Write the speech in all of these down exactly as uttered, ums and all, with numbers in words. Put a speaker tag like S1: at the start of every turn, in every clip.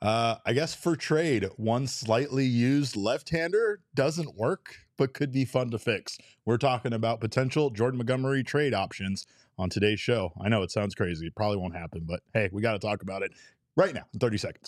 S1: Uh, I guess for trade, one slightly used left-hander doesn't work, but could be fun to fix. We're talking about potential Jordan Montgomery trade options on today's show. I know it sounds crazy. It probably won't happen, but hey, we got to talk about it right now in thirty seconds.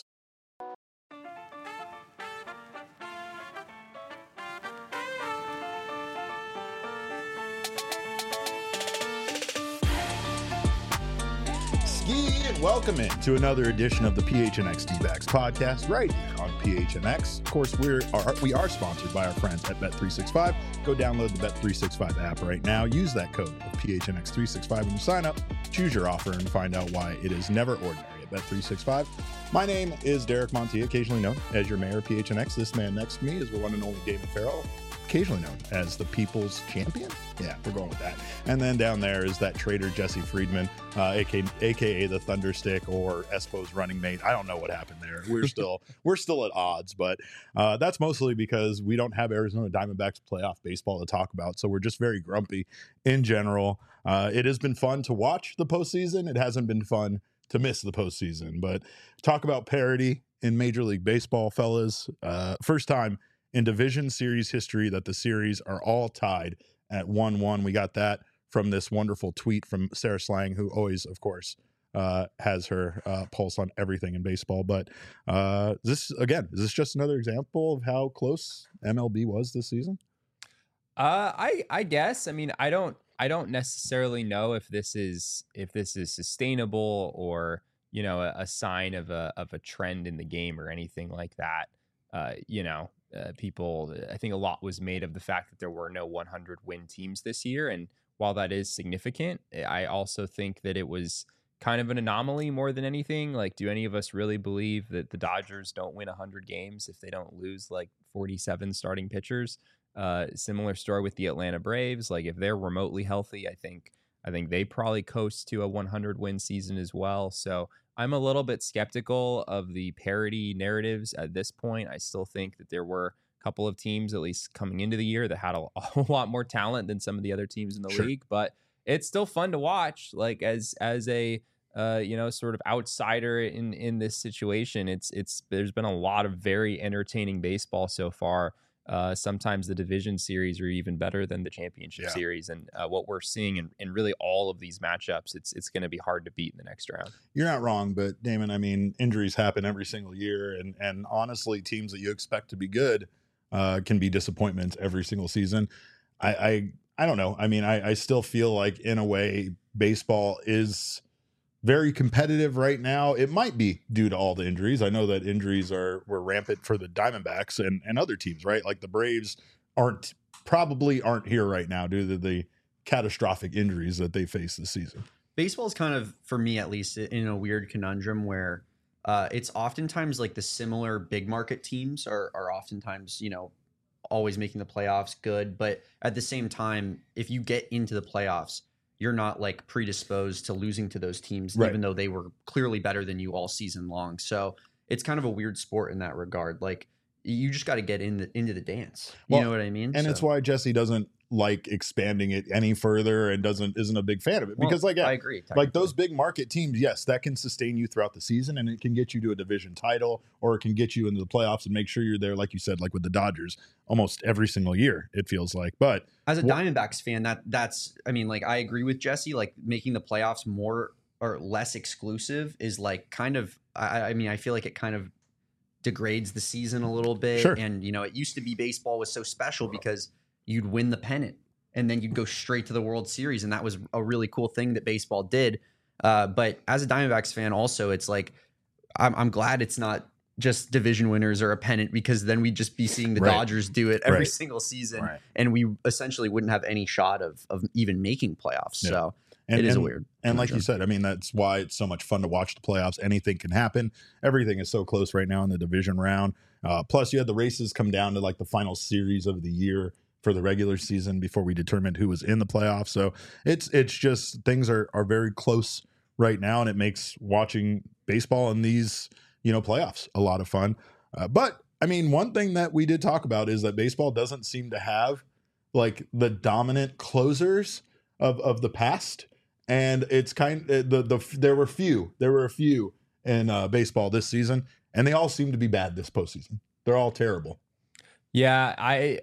S1: And welcome in to another edition of the P H N X D-Backs podcast right here on P H N X. Of course, we're are, we are sponsored by our friends at Bet three sixty-five. Go download the Bet three sixty-five app right now. Use that code of P H N X three sixty-five when you sign up. Choose your offer and find out why it is never ordinary at Bet three sixty-five. My name is Derek Montilla, occasionally known as your mayor of P H N X. This man next to me is the one and only Damon Farrell, occasionally known as the People's Champion. Yeah, we're going with that. And then down there is that trader Jesse Friedman, uh, aka, aka the Thunderstick or Espo's running mate. I don't know what happened there. We're still we're still at odds, but uh, that's mostly because we don't have Arizona Diamondbacks playoff baseball to talk about. So we're just very grumpy in general. Uh, it has been fun to watch the postseason. It hasn't been fun to miss the postseason. But talk about parity in Major League Baseball, fellas. Uh, first time in division series history that the series are all tied at one one. We got that from this wonderful tweet from Sarah Slang, who always, of course, uh, has her uh, pulse on everything in baseball. But uh, this, again, is this just another example of how close M L B was this season?
S2: Uh, I I guess. I mean, I don't I don't necessarily know if this is if this is sustainable or, you know, a, a sign of a of a trend in the game or anything like that. Uh, you know. Uh, people, I think a lot was made of the fact that there were no one hundred win teams this year. And while that is significant, I also think that it was kind of an anomaly more than anything. Like, do any of us really believe that the Dodgers don't win one hundred games if they don't lose like forty-seven starting pitchers? Uh, similar story with the Atlanta Braves. Like, if they're remotely healthy, I think I think they probably coast to a one hundred win season as well. So I'm a little bit skeptical of the parity narratives at this point. I still think that there were a couple of teams, at least coming into the year, that had a, a lot more talent than some of the other teams in the
S1: Sure.
S2: league. But it's still fun to watch. Like as as a uh, you know sort of outsider in in this situation, it's it's there's been a lot of very entertaining baseball so far. Uh, sometimes the division series are even better than the championship
S1: Yeah.
S2: series. And uh, what we're seeing in, in really all of these matchups, it's it's going to be hard to beat in the next round.
S1: You're not wrong, but Damon, I mean, injuries happen every single year. And, and honestly, teams that you expect to be good uh, can be disappointments every single season. I, I, I don't know. I mean, I, I still feel like in a way, baseball is very competitive right now. It might be due to all the injuries. I know that injuries are were rampant for the Diamondbacks and, and other teams, right? Like the Braves aren't probably aren't here right now due to the catastrophic injuries that they face this season.
S3: Baseball is kind of, for me at least, in a weird conundrum where uh, it's oftentimes like the similar big market teams are are oftentimes, you know, always making the playoffs good. But at the same time, if you get into the playoffs, you're not like predisposed to losing to those teams,
S1: Right.
S3: even though they were clearly better than you all season long. So it's kind of a weird sport in that regard. Like you just got to get in the, into the dance. You
S1: Well,
S3: know what I mean?
S1: And
S3: So-
S1: it's why Jesse doesn't like expanding it any further and doesn't isn't a big fan of it because
S3: Well,
S1: like yeah,
S3: I agree.
S1: like those big market teams, yes, that can sustain you throughout the season and it can get you to a division title or it can get you into the playoffs and make sure you're there, like you said, like with the Dodgers almost every single year, it feels like. But
S3: As a
S1: Wha-
S3: Diamondbacks fan, that that's I mean, like I agree with Jesse. Like making the playoffs more or less exclusive is like kind of. I, I mean, I feel like it kind of degrades the season a little bit.
S1: Sure.
S3: And you know, it used to be baseball was so special because you'd win the pennant and then you'd go straight to the World Series, and that was a really cool thing that baseball did. Uh, but as a Diamondbacks fan, also, it's like I'm, I'm glad it's not just division winners or a pennant because then we'd just be seeing the
S1: Right.
S3: Dodgers do it every
S1: Right.
S3: single season.
S1: Right.
S3: And we essentially wouldn't have any shot of of even making playoffs.
S1: Yeah.
S3: So
S1: and,
S3: it is
S1: and,
S3: a weird.
S1: and like you
S3: conundrum.
S1: said, I mean, that's why it's so much fun to watch the playoffs. Anything can happen. Everything is so close right now in the division round. Uh, plus, you had the races come down to like the final series of the year for the regular season before we determined who was in the playoffs. So it's it's just things are are very close right now, and it makes watching baseball in these you know playoffs a lot of fun. Uh, but I mean, one thing that we did talk about is that baseball doesn't seem to have like the dominant closers of of the past, and it's kind of the the there were few there were a few in uh, baseball this season, and they all seem to be bad this postseason. They're all terrible.
S2: Yeah, I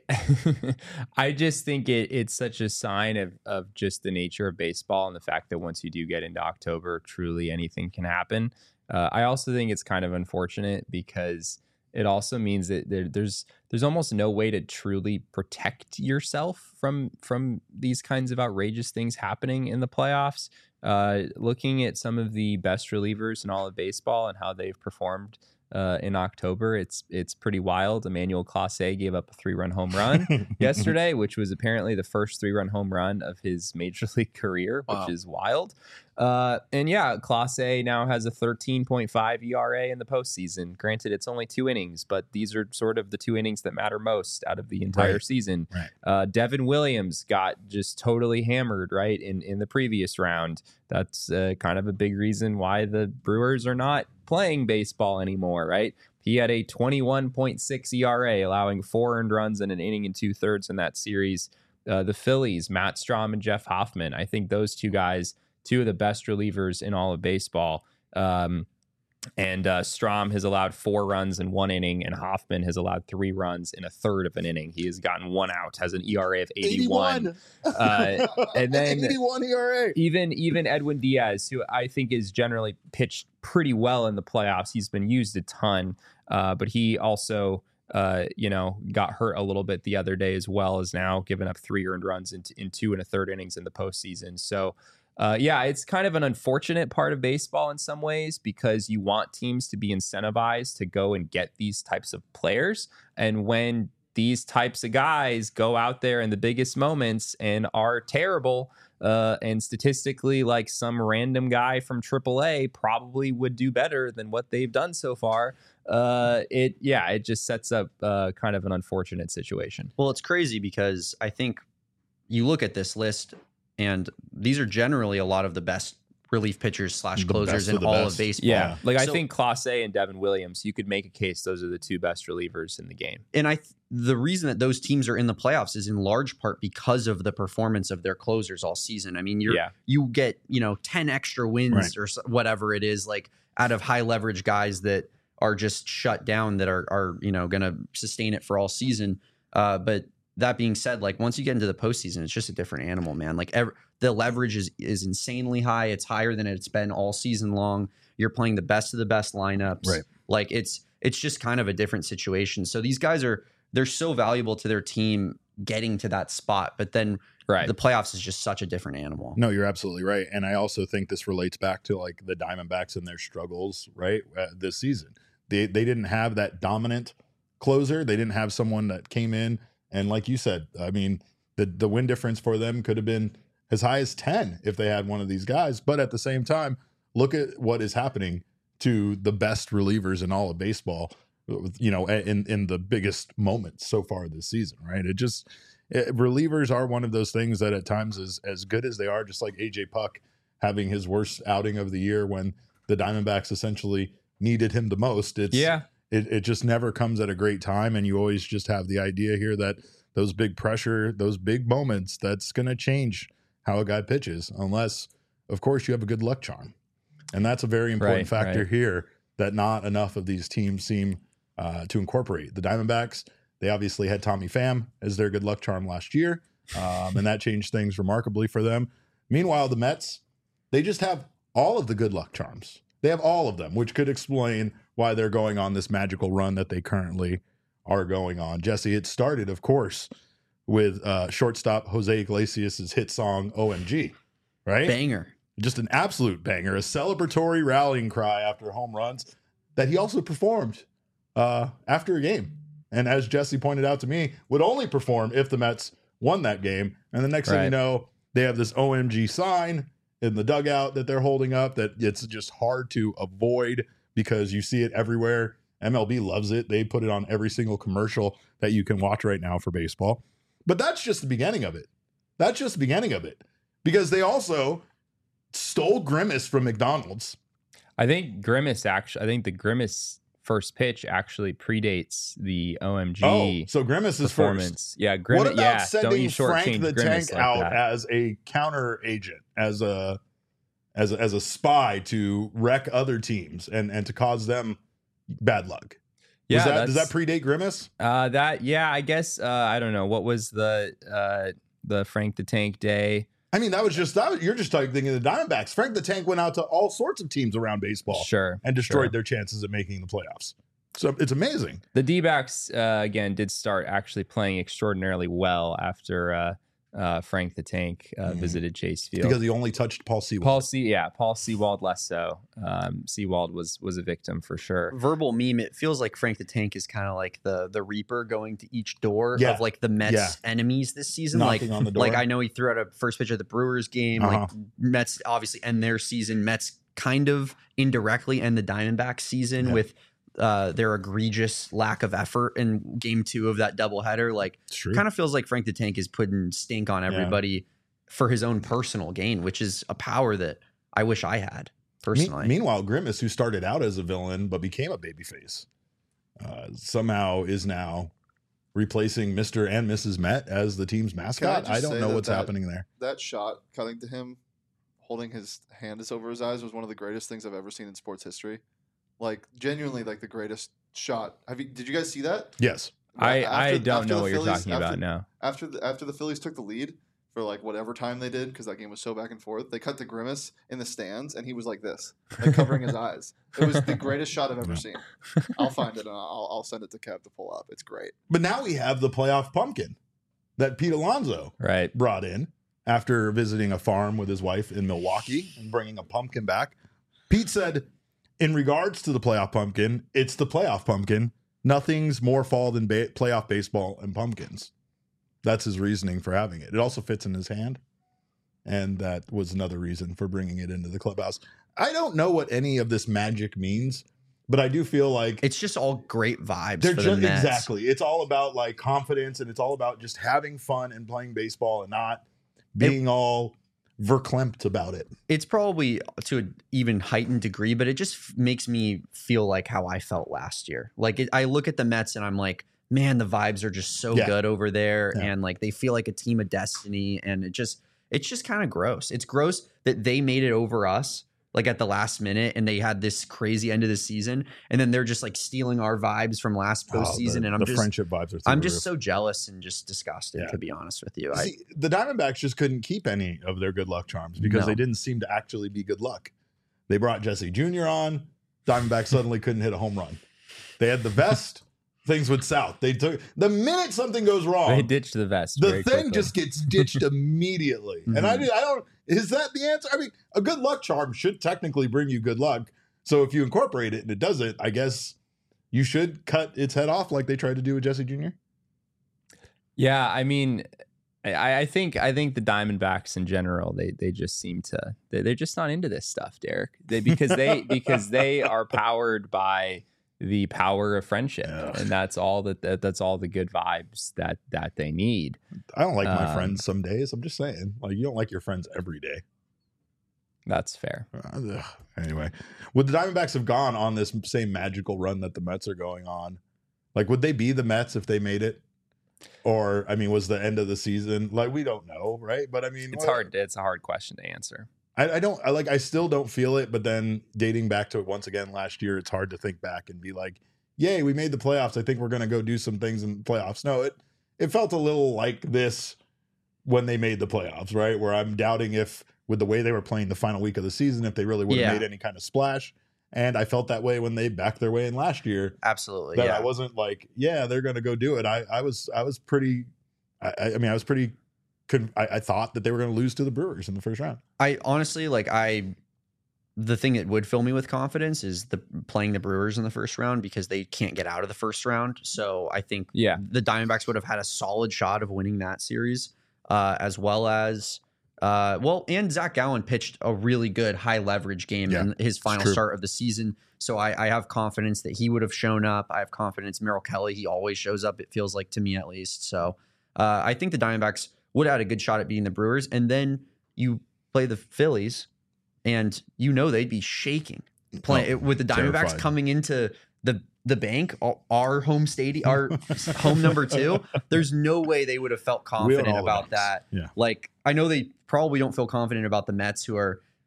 S2: I just think it it's such a sign of of just the nature of baseball and the fact that once you do get into October, truly anything can happen. Uh, I also think it's kind of unfortunate because it also means that there, there's there's almost no way to truly protect yourself from from these kinds of outrageous things happening in the playoffs. Uh, looking at some of the best relievers in all of baseball and how they've performed Uh, in October, it's it's pretty wild. Emmanuel Clase gave up a three-run home run yesterday, which was apparently the first three-run home run of his major league career, which
S1: wow.
S2: is wild. Uh, and yeah, Clase now has a thirteen point five E R A in the postseason. Granted, it's only two innings, but these are sort of the two innings that matter most out of the entire
S1: right.
S2: season.
S1: Right.
S2: Uh, Devin Williams got just totally hammered, right, in, in the previous round. That's uh, kind of a big reason why the Brewers are not playing baseball anymore, right? He had a twenty-one point six E R A, allowing four earned runs in an inning and two thirds in that series. Uh, the Phillies, Matt Strahm and Jeff Hoffman, I think those two guys, two of the best relievers in all of baseball. Um, and uh, Strahm has allowed four runs in one inning, and Hoffman has allowed three runs in a third of an inning. He has gotten one out, has an E R A of eighty-one. eighty-one. Uh, and then
S1: eighty-one E R A.
S2: Even even Edwin Diaz, who I think is generally pitched pretty well in the playoffs. He's been used a ton, uh, but he also, uh, you know, got hurt a little bit the other day as well, as now given up three earned runs in, in two and a third innings in the postseason. So, uh, yeah, it's kind of an unfortunate part of baseball in some ways because you want teams to be incentivized to go and get these types of players. And when these types of guys go out there in the biggest moments and are terrible, uh, and statistically, like some random guy from triple A probably would do better than what they've done so far. Uh, it, yeah, it just sets up uh, kind of an unfortunate situation.
S3: Well, it's crazy because I think you look at this list and these are generally a lot of the best relief pitchers slash closers in all
S1: best.
S3: of baseball.
S2: Yeah, like
S3: so,
S2: I think Clase and Devin Williams, you could make a case those are the two best relievers in the game.
S3: And I, th- the reason that those teams are in the playoffs is in large part because of the performance of their closers all season. I mean, you're
S2: Yeah.
S3: you get you know ten extra wins
S1: Right.
S3: or whatever it is, like out of high leverage guys that are just shut down that are are you know going to sustain it for all season. Uh, but that being said, like once you get into the postseason, it's just a different animal, man. Like every, the leverage is is insanely high. It's higher than it's been all season long. You're playing the best of the best lineups.
S1: Right.
S3: Like it's it's just kind of a different situation. So these guys are they're so valuable to their team getting to that spot, but then
S2: Right.
S3: the playoffs is just such a different animal.
S1: No, you're absolutely right. And I also think this relates back to like the Diamondbacks and their struggles, right? Uh, this season. They they didn't have that dominant closer. They didn't have someone that came in and like you said, I mean, the the win difference for them could have been as high as ten if they had one of these guys. But at the same time, look at what is happening to the best relievers in all of baseball, you know, in, in the biggest moments so far this season, right? It just, it, relievers are one of those things that at times is as good as they are, just like A J Puck having his worst outing of the year when the Diamondbacks essentially needed him the most. It's,
S2: Yeah.
S1: it, it just never comes at a great time. And you always just have the idea here that those big pressure, those big moments, that's going to change how a guy pitches, unless, of course, you have a good luck charm. And that's a very important
S2: Right,
S1: factor
S2: right.
S1: here that not enough of these teams seem uh, to incorporate. The Diamondbacks, they obviously had Tommy Pham as their good luck charm last year, um, and that changed things remarkably for them. Meanwhile, the Mets, they just have all of the good luck charms. They have all of them, which could explain why they're going on this magical run that they currently are going on. Jesse, it started, of course, with uh, shortstop Jose Iglesias' hit song O M G, right?
S3: Banger.
S1: Just an absolute banger, a celebratory rallying cry after home runs that he also performed uh, after a game. And as Jesse pointed out to me, would only perform if the Mets won that game. And the next thing you
S2: Right.
S1: know, they have this O M G sign in the dugout that they're holding up that it's just hard to avoid because you see it everywhere. M L B loves it. They put it on every single commercial that you can watch right now for baseball. But that's just the beginning of it. That's just the beginning of it. Because they also stole Grimace from McDonald's.
S2: I think Grimace actually, I think the Grimace first pitch actually predates the O M G
S1: Oh, so Grimace is
S2: performance.
S1: first.
S2: Yeah,
S1: What
S2: Grimace.
S1: about
S2: Yeah, don't
S1: sending
S2: you
S1: Frank
S2: shortchange
S1: the
S2: Grimace
S1: Tank
S2: like
S1: out
S2: that.
S1: as a counter agent, as a as a, as a spy to wreck other teams and and to cause them bad luck.
S2: Yeah,
S1: Was that,
S2: that's,
S1: does that predate Grimace?
S2: Uh, that yeah, I guess uh, I don't know what was the uh, the Frank the Tank day.
S1: I mean, that was just that. Was, you're just thinking of the Diamondbacks. Frank the Tank went out to all sorts of teams around baseball,
S2: sure,
S1: and destroyed
S2: sure.
S1: their chances of making the playoffs. So it's amazing.
S2: The D-backs uh, again did start actually playing extraordinarily well after uh, uh, Frank the Tank uh, mm-hmm. visited Chase Field
S1: because he only touched Paul Sewald.
S2: Paul Se- yeah, Paul Sewald less so. Um, Sewald was was a victim for sure.
S3: Verbal meme. It feels like Frank the Tank is kind of like the the Reaper going to each door
S1: yeah.
S3: of like the Mets
S1: yeah.
S3: enemies this season.
S1: Knocking
S3: like
S1: on the door.
S3: Like I know he threw out a first pitch of the Brewers game.
S1: Uh-huh.
S3: Like Mets obviously end their season. Mets kind of indirectly end the Diamondbacks season yeah. with. Uh, their egregious lack of effort in game two of that doubleheader. Like, kind of feels like Frank the Tank is putting stink on everybody yeah. for his own personal gain, which is a power that I wish I had personally.
S1: Me- meanwhile, Grimace, who started out as a villain but became a babyface, uh, somehow is now replacing Mister and Missus Met as the team's mascot. I, I don't know that what's
S4: that,
S1: happening there.
S4: That shot cutting to him, holding his hand over his eyes, was one of the greatest things I've ever seen in sports history. Like genuinely, like the greatest shot. Have you? Did you guys see that?
S1: Yes.
S2: I,
S4: after,
S2: I don't know what
S4: Phillies,
S2: you're talking
S4: after,
S2: about now.
S4: After the after the Phillies took the lead for like whatever time they did, because that game was so back and forth, they cut to Grimace in the stands, and he was like this, like covering his eyes. It was the greatest shot I've ever seen. I'll find it and I'll, I'll send it to Kev to pull up. It's great.
S1: But now we have the playoff pumpkin that Pete Alonso
S2: right.
S1: brought in after visiting a farm with his wife in Milwaukee and bringing a pumpkin back. Pete said, in regards to the playoff pumpkin, it's the playoff pumpkin. Nothing's more fall than ba- playoff baseball and pumpkins. That's his reasoning for having it. It also fits in his hand. And that was another reason for bringing it into the clubhouse. I don't know what any of this magic means, but I do feel like
S3: it's just all great vibes.
S1: They're
S3: for
S1: just,
S3: the Mets.
S1: Exactly. It's all about like confidence, and it's all about just having fun and playing baseball and not being it, all verklempt about it.
S3: It's probably to an even heightened degree, but it just f- makes me feel like how I felt last year. Like it, I look at the Mets and I'm like, man, the vibes are just so
S1: yeah.
S3: good over there.
S1: Yeah.
S3: And like, they feel like a team of destiny. And it just, it's just kind of gross. It's gross that they made it over us like at the last minute and they had this crazy end of the season. And then they're just like stealing our vibes from last postseason.
S1: Oh, the,
S3: and I'm
S1: the
S3: just,
S1: friendship vibes are
S3: I'm just so jealous and just disgusted, yeah. to be honest with you.
S1: See, I, the Diamondbacks just couldn't keep any of their good luck charms because
S3: no.
S1: they didn't seem to actually be good luck. They brought Jesse Junior on. Diamondbacks suddenly couldn't hit a home run. They had the vest. Things went south. They took the minute something goes wrong.
S2: They ditched the vest.
S1: The
S2: very
S1: thing
S2: quickly.
S1: just gets ditched immediately. Mm-hmm. And I, I don't. Is that the answer? I mean, a good luck charm should technically bring you good luck. So if you incorporate it and it doesn't, I guess you should cut its head off like they tried to do with Jesse Junior
S2: Yeah, I mean, I, I think I think the Diamondbacks in general, they they just seem to they, they're just not into this stuff, Derek. They, because they because they are powered by the power of friendship, yeah. and that's all that, that that's all the good vibes that that they need.
S1: I don't like my
S2: um,
S1: friends some days. I'm just saying, like, you don't like your friends every day.
S2: That's fair.
S1: Uh, anyway, would the Diamondbacks have gone on this same magical run that the Mets are going on? Like, would they be the Mets if they made it? Or, I mean, was the end of the season like, we don't know, right? But I mean,
S2: it's
S1: what,
S2: hard. It's a hard question to answer.
S1: I, I don't I like I still don't feel it, but then dating back to it once again last year, it's hard to think back and be like, yay, we made the playoffs. I think we're gonna go do some things in the playoffs. No, it it felt a little like this when they made the playoffs, right? Where I'm doubting if with the way they were playing the final week of the season, if they really would have
S3: yeah.
S1: made any kind of splash. And I felt that way when they backed their way in last year.
S3: Absolutely.
S1: That
S3: yeah.
S1: I wasn't like, yeah, they're gonna go do it. I I was I was pretty I, I mean I was pretty Could I, I thought that they were going to lose to the Brewers in the first round.
S3: I honestly like I the thing that would fill me with confidence is the playing the Brewers in the first round because they can't get out of the first round. So I think
S2: yeah.
S3: the Diamondbacks would have had a solid shot of winning that series, uh, as well as uh, well, and Zach Gallen pitched a really good high leverage game yeah, in his final start of the season. So I, I have confidence that he would have shown up. I have confidence Merrill Kelly, he always shows up. It feels like to me at least. So uh, I think the Diamondbacks would have had a good shot at beating the Brewers. And then you play the Phillies and you know they'd be shaking play, oh, with the Diamondbacks terrified. Coming into the the bank, our home stadium, our home number two. There's no way they would have felt confident about that.
S1: Yeah.
S3: Like, I know they probably don't feel confident about the Mets, who are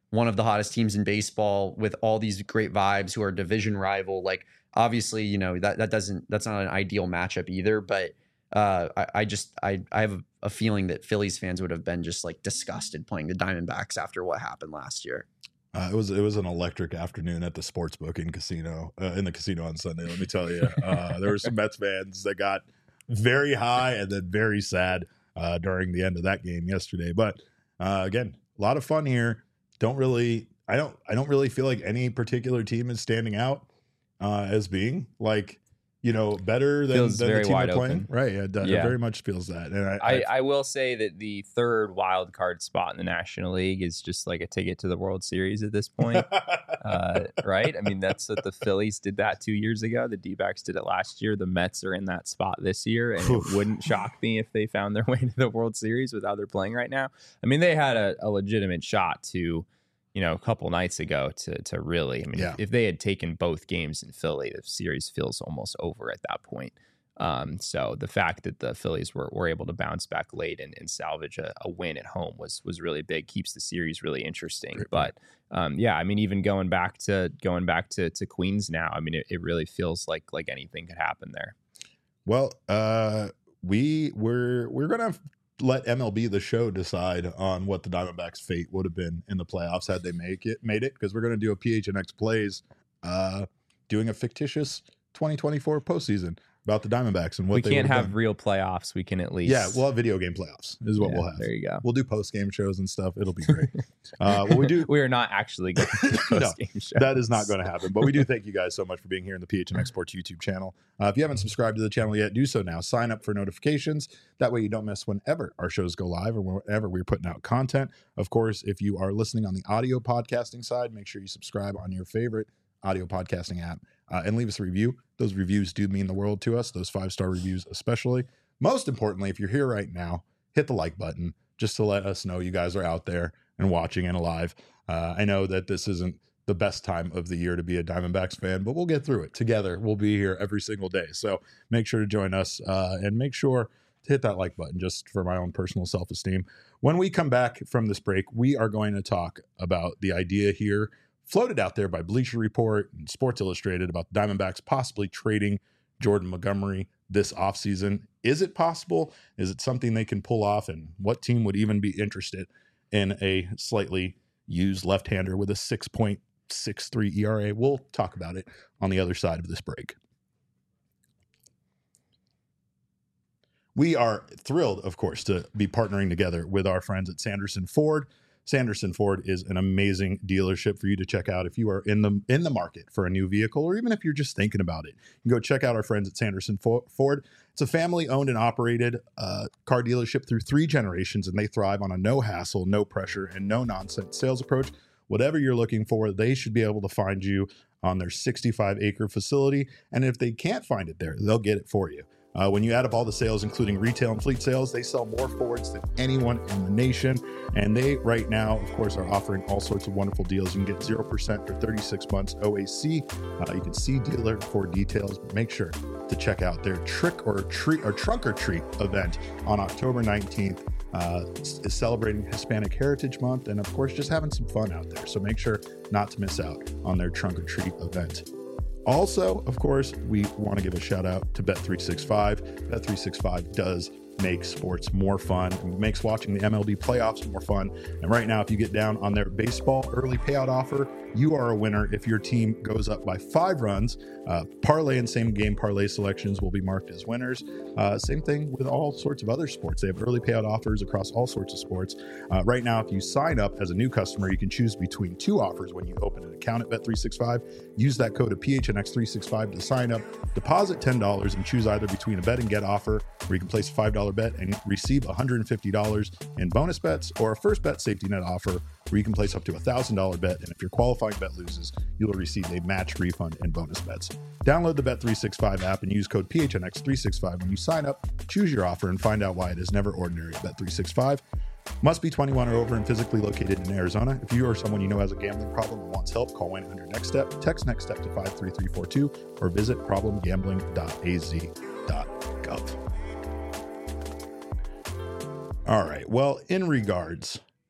S3: one of the hottest teams in baseball with all these great vibes who are division rival. Like, obviously, you know, that, that doesn't, that's not an ideal matchup either, but uh, I, I just, I, I have a feeling that Phillies fans would have been just like disgusted playing the Diamondbacks after what happened last year.
S1: Uh, it was it was an electric afternoon at the sportsbook in casino uh, in the casino on Sunday. Let me tell you, uh, there were some Mets fans that got very high and then very sad uh, during the end of that game yesterday. But uh, again, a lot of fun here. Don't really, I don't, I don't really feel like any particular team is standing out uh, as being like, you know, better than,
S2: Feels
S1: than
S2: very
S1: the team
S2: wide
S1: are playing.
S2: open.
S1: Right? It, it
S2: Yeah.
S1: very much feels that. And I,
S2: I, I will say that the third wild card spot in the National League is just like a ticket to the World Series at this point. uh, right? I mean, that's what the Phillies did that two years ago. The D-backs did it last year. The Mets are in that spot this year, and it wouldn't shock me if they found their way to the World Series with how they're playing right now. I mean, they had a, a legitimate shot to, you know, a couple nights ago to to really, I mean,
S1: Yeah.
S2: if, if they had taken both games in Philly, the series feels almost over at that point. Um, so the fact that the Phillies were, were able to bounce back late and, and salvage a, a win at home was was really big, keeps the series really interesting.
S1: Great
S2: But um, yeah, I mean, even going back to going back to to Queens now, I mean, it, it really feels like like anything could happen there.
S1: Well, uh, we we're we're gonna let M L B the show decide on what the Diamondbacks' fate would have been in the playoffs had they make it made it, because we're gonna do a P H N X Plays, uh, doing a fictitious twenty twenty-four postseason about the Diamondbacks and what
S2: We
S1: they
S2: can't
S1: would
S2: have
S1: done.
S2: real playoffs. We can at least
S1: Yeah, we'll have video game playoffs is what
S2: Yeah,
S1: we'll have.
S2: There you go.
S1: We'll do post game shows and stuff. It'll be great. uh, what we do
S2: We are not actually going to do
S1: No,
S2: post-game shows.
S1: That is not going to happen. But we do thank you guys so much for being here in the P H N X Sports YouTube channel. Uh, if you haven't subscribed to the channel yet, do so now. Sign up for notifications. That way you don't miss whenever our shows go live or whenever we're putting out content. Of course, if you are listening on the audio podcasting side, make sure you subscribe on your favorite audio podcasting app uh, and leave us a review. Those reviews do mean the world to us, those five-star reviews especially. Most importantly, if you're here right now, hit the like button just to let us know you guys are out there and watching and alive. Uh, I know that this isn't the best time of the year to be a Diamondbacks fan, but we'll get through it together. We'll be here every single day. So make sure to join us uh, and make sure to hit that like button just for my own personal self-esteem. When we come back from this break, we are going to talk about the idea here floated out there by Bleacher Report and Sports Illustrated about the Diamondbacks possibly trading Jordan Montgomery this offseason. Is it possible? Is it something they can pull off? And what team would even be interested in a slightly used left-hander with a six point six three E R A? We'll talk about it on the other side of this break. We are thrilled, of course, to be partnering together with our friends at Sanderson Ford. Sanderson Ford is an amazing dealership for you to check out if you are in the in the market for a new vehicle, or even if you're just thinking about it. You can go check out our friends at Sanderson Ford. It's a family-owned and operated uh, car dealership through three generations, and they thrive on a no-hassle, no-pressure, and no-nonsense sales approach. Whatever you're looking for, they should be able to find you on their sixty-five acre facility, and if they can't find it there, they'll get it for you. Uh, when you add up all the sales, including retail and fleet sales, they sell more Fords than anyone in the nation. And they, right now, of course, are offering all sorts of wonderful deals. You can get zero percent for thirty-six months O A C. Uh, you can see dealer for details, but make sure to check out their trick or treat or trunk or treat event on October nineteenth. Uh, is celebrating Hispanic Heritage Month and, of course, just having some fun out there. So make sure not to miss out on their trunk or treat event. Also, of course, we want to give a shout out to Bet three sixty-five. Bet three sixty-five does make sports more fun and makes watching the M L B playoffs more fun. And right now, if you get down on their baseball early payout offer, you are a winner if your team goes up by five runs. Uh, parlay and same game parlay selections will be marked as winners. Uh, same thing with all sorts of other sports. They have early payout offers across all sorts of sports. Uh, right now, if you sign up as a new customer, you can choose between two offers when you open an account at Bet three sixty-five. Use that code of P H N X three sixty-five to sign up. Deposit ten dollars and choose either between a bet and get offer, where you can place a five dollar bet and receive one hundred fifty dollars in bonus bets, or a first bet safety net offer, where you can place up to a one thousand dollar bet, and if your qualifying bet loses, you will receive a match refund and bonus bets. Download the Bet three sixty-five app and use code P H N X three sixty-five when you sign up. Choose your offer and find out why it is never ordinary at Bet three sixty-five. Must be twenty-one or over and physically located in Arizona. If you or someone you know has a gambling problem and wants help, call one eight hundred next step, text next step to five three three four two, or visit problem gambling dot a z dot gov. All right. Well, in regards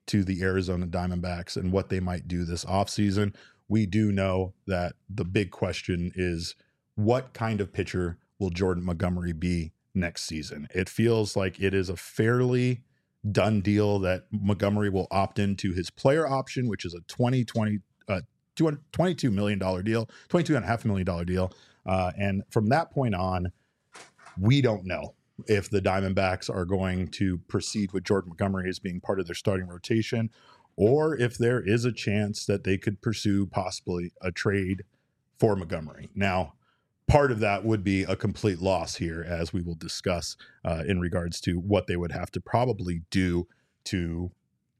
S1: to the Arizona Diamondbacks and what they might do this offseason. We do know that the big question is, what kind of pitcher will Jordan Montgomery be next season? It feels like it is a fairly done deal that Montgomery will opt into his player option, which is a twenty twenty, uh, twenty-two million dollars deal, twenty-two point five million dollars deal. Uh, and from that point on, we don't know if the Diamondbacks are going to proceed with Jordan Montgomery as being part of their starting rotation, or if there is a chance that they could pursue possibly a trade for Montgomery. Now, part of that would be a complete loss here, as we will discuss uh, in regards to what they would have to probably do to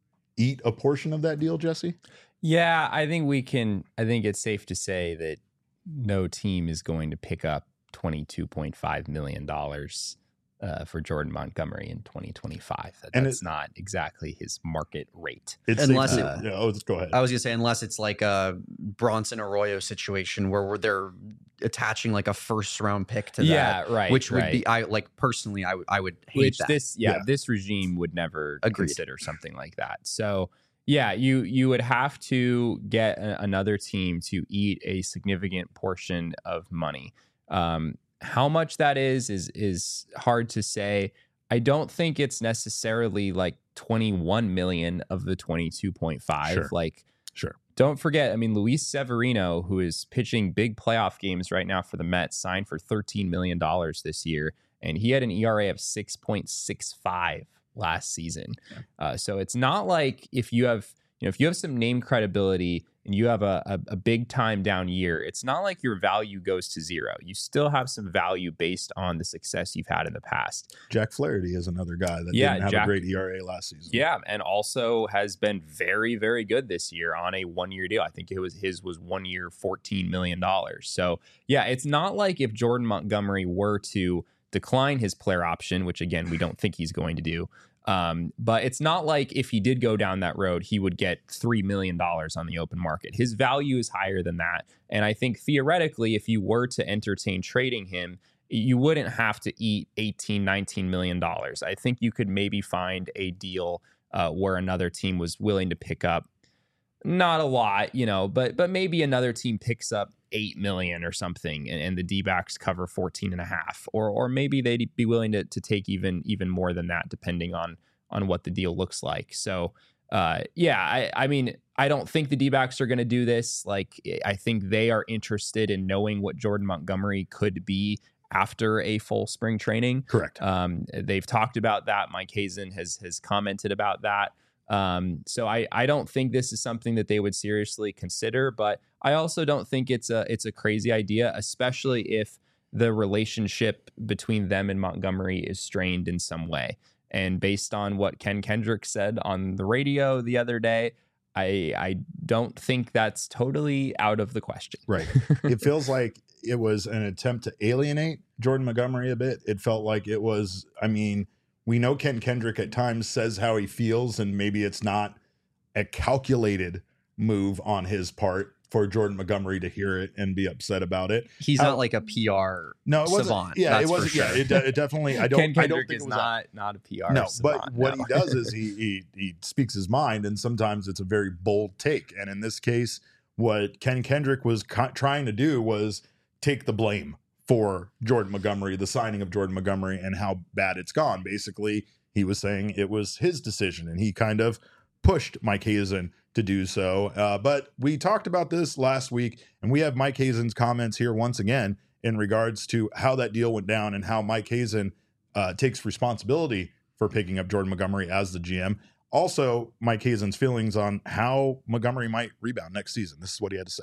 S1: eat a portion of that deal, Jesse.
S2: Yeah, I think we can. I think it's safe to say that no team is going to pick up twenty-two point five million dollars uh, for Jordan Montgomery in twenty twenty-five. That,
S1: And
S2: that's
S1: it-
S2: not exactly his market rate.
S1: It's
S3: Unless
S1: safe
S3: it-
S1: to- yeah, oh, just go ahead.
S3: I was gonna say, unless it's like a Bronson Arroyo situation where, where they're attaching like a first round pick to
S2: Yeah,
S3: that,
S2: right.
S3: which would
S2: right.
S3: be, I like personally, I would I would hate
S2: Which
S3: that.
S2: this, yeah,
S1: Yeah.
S2: this regime would never
S3: Agreed.
S2: consider something like that. So, yeah, you you would have to get a, another team to eat a significant portion of money. Um, how much that is is is hard to say. I don't think it's necessarily like twenty-one million of the twenty-two point five.
S1: Sure.
S2: Like,
S1: Sure.
S2: don't forget, I mean, Luis Severino, who is pitching big playoff games right now for the Mets, signed for thirteen million dollars this year, and he had an E R A of six point six five last season.
S1: Yeah.
S2: Uh, so it's not like if you have, you know, if you have some name credibility and you have a, a, a big time down year, it's not like your value goes to zero. You still have some value based on the success you've had in the past.
S1: Jack Flaherty is another guy that
S2: Yeah,
S1: didn't have
S2: Jack-
S1: a great E R A last season.
S2: Yeah, and also has been very, very good this year on a one-year deal. I think it was his was one year, fourteen million dollars. So yeah, it's not like if Jordan Montgomery were to decline his player option, which again we don't think he's going to do. Um, but it's not like if he did go down that road, he would get three million dollars on the open market. His value is higher than that. And I think theoretically, if you were to entertain trading him, you wouldn't have to eat eighteen, nineteen million dollars. I think you could maybe find a deal uh, where another team was willing to pick up, not a lot, you know, but but maybe another team picks up eight million or something, and, and the D-backs cover fourteen and a half, or or maybe they'd be willing to to take even even more than that, depending on on what the deal looks like. So uh, yeah, I, I mean, I don't think the D-backs are going to do this. Like, I think they are interested in knowing what Jordan Montgomery could be after a full spring training.
S1: Correct.
S2: Um, they've talked about that. Mike Hazen has has commented about that. Um, so I, I don't think this is something that they would seriously consider, but I also don't think it's a it's a crazy idea, especially if the relationship between them and Montgomery is strained in some way. And based on what Ken Kendrick said on the radio the other day, I I don't think that's totally out of the question.
S1: Right. It feels like it was an attempt to alienate Jordan Montgomery a bit. It felt like it was, I mean, we know Ken Kendrick at times says how he feels, and maybe it's not a calculated move on his part for Jordan Montgomery to hear it and be upset about it.
S3: He's
S1: How-
S3: not like a P R
S1: No, it wasn't.
S3: savant.
S1: Yeah,
S3: that's
S1: it
S3: for
S1: wasn't.
S3: sure.
S1: Yeah, it, de- it definitely. I don't.
S2: Ken
S1: I don't
S2: Kendrick
S1: think
S2: is
S1: it was a-
S2: not not a P R.
S1: No, but
S2: savant,
S1: what
S2: no.
S1: he does is he, he he speaks his mind, and sometimes it's a very bold take. And in this case, what Ken Kendrick was co- trying to do was take the blame for Jordan Montgomery, the signing of Jordan Montgomery, and how bad it's gone. Basically, he was saying it was his decision, and he kind of pushed Mike Hazen to do so. Uh, but we talked about this last week, and we have Mike Hazen's comments here once again in regards to how that deal went down and how Mike Hazen uh, takes responsibility for picking up Jordan Montgomery as the G M. Also, Mike Hazen's feelings on how Montgomery might rebound next season. This is what he had to say.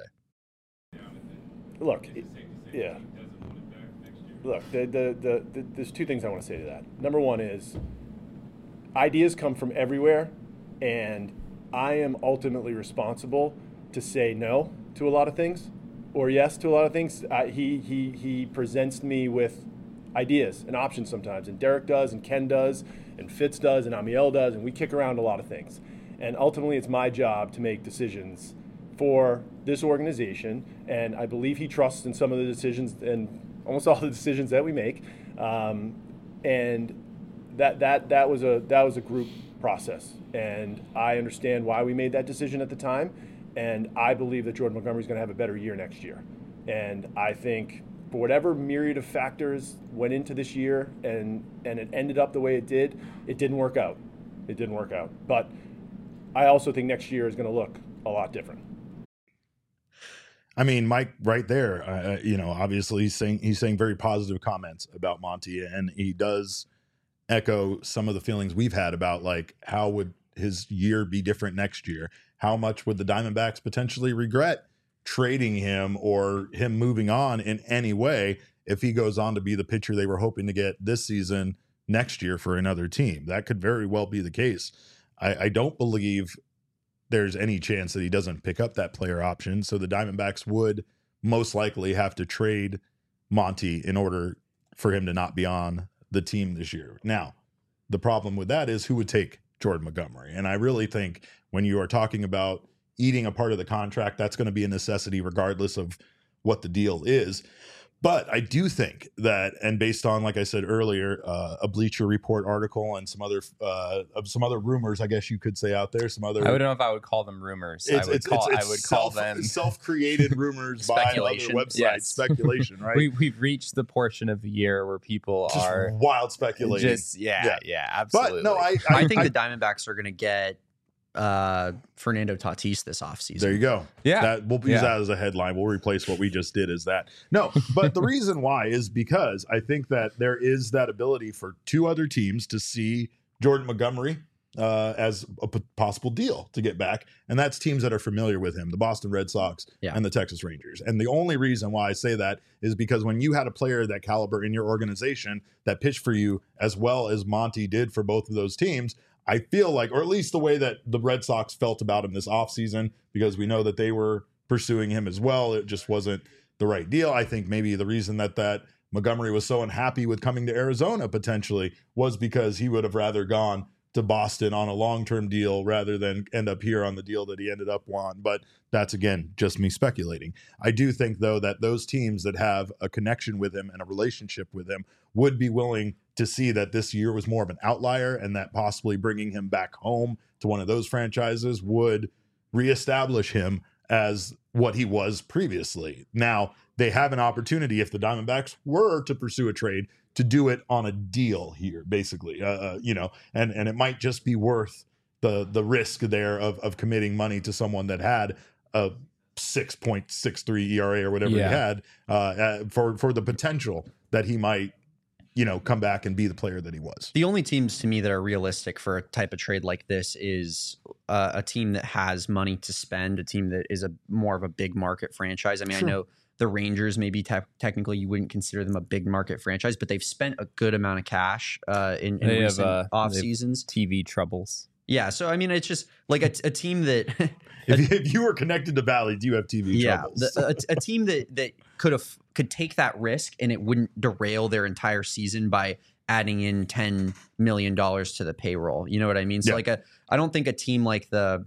S5: Look, it- yeah. Look, the, the, the, the, there's two things I want to say to that. Number one is ideas come from everywhere, and I am ultimately responsible to say no to a lot of things or yes to a lot of things. I, he, he, he presents me with ideas and options sometimes, and Derek does, and Ken does, and Fitz does, and Amiel does, and we kick around a lot of things. And ultimately, it's my job to make decisions for this organization, and I believe he trusts in some of the decisions and almost all the decisions that we make. Um, and that that that was a that was a group process. And I understand why we made that decision at the time. And I believe that Jordan Montgomery is going to have a better year next year. And I think for whatever myriad of factors went into this year and, and it ended up the way it did, it didn't work out. It didn't work out. But I also think next year is going to look a lot different.
S1: I mean, Mike, right there, uh, you know, obviously he's saying he's saying very positive comments about Monty, and he does echo some of the feelings we've had about like how would his year be different next year? How much would the Diamondbacks potentially regret trading him or him moving on in any way if he goes on to be the pitcher they were hoping to get this season next year for another team? That could very well be the case. I, I don't believe there's any chance that he doesn't pick up that player option. So the Diamondbacks would most likely have to trade Monty in order for him to not be on the team this year. Now, the problem with that is who would take Jordan Montgomery? And I really think when you are talking about eating a part of the contract, that's going to be a necessity regardless of what the deal is. But I do think that, and based on, like I said earlier, uh, a Bleacher Report article and some other uh, some other rumors, I guess you could say out there, some other.
S2: I don't know if I would call them rumors. I would
S1: it's,
S2: call
S1: it's, it's
S2: I would
S1: self,
S2: call them
S1: self-created rumors by other websites.
S2: Yes.
S1: Speculation, right?
S2: we we've reached the portion of the year where people
S1: just
S2: are
S1: wild speculating.
S2: Just yeah,
S1: Yeah.
S2: yeah, absolutely.
S1: But no, I
S3: I,
S1: I,
S3: think
S1: I,
S3: the Diamondbacks are going to get uh, Fernando Tatis this offseason.
S1: There you go.
S2: Yeah.
S1: That we'll use
S2: Yeah.
S1: that as a headline. We'll replace what we just did as that. No, but the reason why is because I think that there is that ability for two other teams to see Jordan Montgomery uh, as a p- possible deal to get back. And that's teams that are familiar with him, the Boston Red Sox
S3: Yeah.
S1: and the Texas Rangers. And the only reason why I say that is because when you had a player that caliber in your organization that pitched for you as well as Monty did for both of those teams, I feel like, or at least the way that the Red Sox felt about him this offseason, because we know that they were pursuing him as well. It just wasn't the right deal. I think maybe the reason that that Montgomery was so unhappy with coming to Arizona potentially was because he would have rather gone to Boston on a long-term deal rather than end up here on the deal that he ended up on. But that's, again, just me speculating. I do think, though, that those teams that have a connection with him and a relationship with him would be willing to see that this year was more of an outlier and that possibly bringing him back home to one of those franchises would reestablish him as what he was previously. Now, they have an opportunity, if the Diamondbacks were to pursue a trade, to do it on a deal here, basically, uh, uh, you know, and, and it might just be worth the the risk there of of committing money to someone that had a six point six three E R A or whatever
S2: Yeah.
S1: he had uh, uh, for for the potential that he might, you know, come back and be the player that he was.
S3: The only teams to me that are realistic for a type of trade like this is uh, a team that has money to spend, a team that is a more of a big market franchise. I mean,
S1: Sure.
S3: I know the Rangers, maybe te- technically you wouldn't consider them a big market franchise, but they've spent a good amount of cash uh, in, in
S2: They have,
S3: recent
S2: uh,
S3: off
S2: they've-
S3: seasons.
S2: T V troubles.
S3: Yeah, so I mean, it's just like a, a team that
S1: If, you- if you were connected to Valley, do you have T V
S3: yeah,
S1: troubles?
S3: the, a, a team that that could have could take that risk and it wouldn't derail their entire season by adding in ten million dollars to the payroll. You know what I mean? So
S1: Yeah.
S3: like a, I don't think a team like the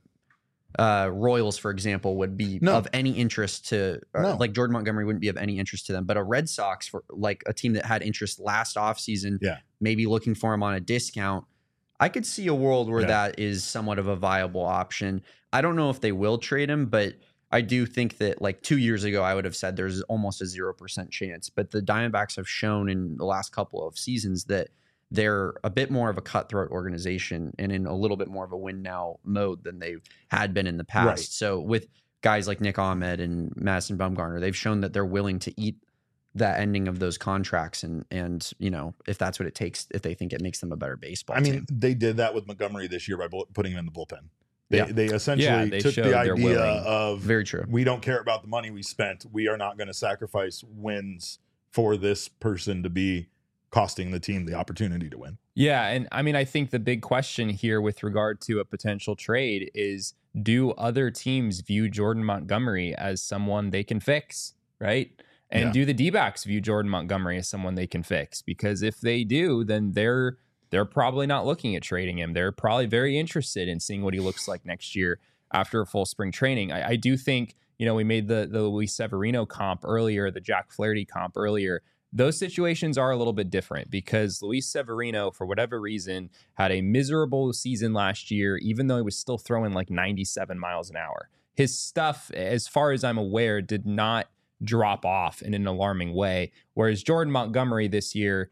S3: uh, Royals, for example, would be
S1: No.
S3: of any interest to or
S1: No.
S3: like Jordan Montgomery wouldn't be of any interest to them. But a Red Sox, for like a team that had interest last offseason,
S1: Yeah.
S3: maybe looking for him on a discount. I could see a world where
S1: Yeah.
S3: that is somewhat of a viable option. I don't know if they will trade him, but I do think that like two years ago, I would have said there's almost a zero percent chance. But the Diamondbacks have shown in the last couple of seasons that they're a bit more of a cutthroat organization and in a little bit more of a win now mode than they had been in the past.
S1: Right.
S3: So with guys like Nick Ahmed and Madison Bumgarner, they've shown that they're willing to eat that ending of those contracts. And, and, you know, if that's what it takes, if they think it makes them a better baseball
S1: I mean,
S3: team.
S1: they did that with Montgomery this year by bull- putting him in the bullpen. They,
S3: Yeah.
S1: they essentially
S2: Yeah, they
S1: took
S2: showed
S1: the
S2: they're
S1: idea
S2: willing.
S1: of
S3: Very true.
S1: we don't care about the money we spent. We are not going to sacrifice wins for this person to be costing the team the opportunity to win.
S2: Yeah, and I mean, I think the big question here with regard to a potential trade is, do other teams view Jordan Montgomery as someone they can fix, right? And
S1: Yeah.
S2: do the D-backs view Jordan Montgomery as someone they can fix? Because if they do, then they're they're probably not looking at trading him. They're probably very interested in seeing what he looks like next year after a full spring training. I, I do think, you know, we made the the Luis Severino comp earlier, the Jack Flaherty comp earlier. those situations are a little bit different because Luis Severino, for whatever reason, had a miserable season last year, even though he was still throwing like ninety-seven miles an hour. His stuff, as far as I'm aware, did not drop off in an alarming way. Whereas Jordan Montgomery this year,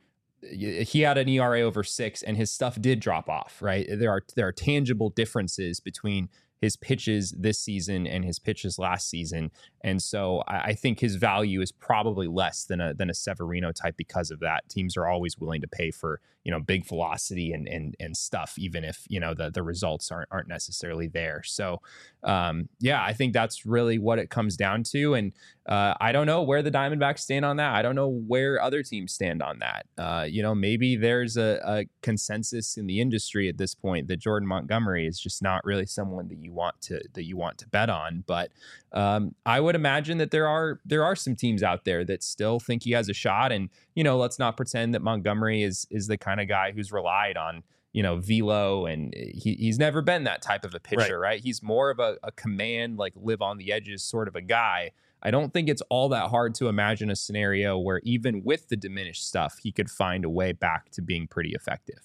S2: he had an E R A over six and his stuff did drop off, right? There are there are tangible differences between his pitches this season and his pitches last season. And so I, I think his value is probably less than a than a Severino type because of that. Teams are always willing to pay for, you know, big velocity and and and stuff, even if, you know, the, the results aren't aren't necessarily there. So um, yeah, I think that's really what it comes down to. And uh, I don't know where the Diamondbacks stand on that. I don't know where other teams stand on that. Uh, you know, maybe there's a, a consensus in the industry at this point that Jordan Montgomery is just not really someone that you want to that you want to bet on. But um, I would imagine that there are there are some teams out there that still think he has a shot. And, you know, let's not pretend that Montgomery is is the kind of guy who's relied on, you know, velo, and he, he's never been that type of a pitcher, right? right? He's more of a, a command, like live on the edges sort of a guy. I don't think it's all that hard to imagine a scenario where even with the diminished stuff, he could find a way back to being pretty effective.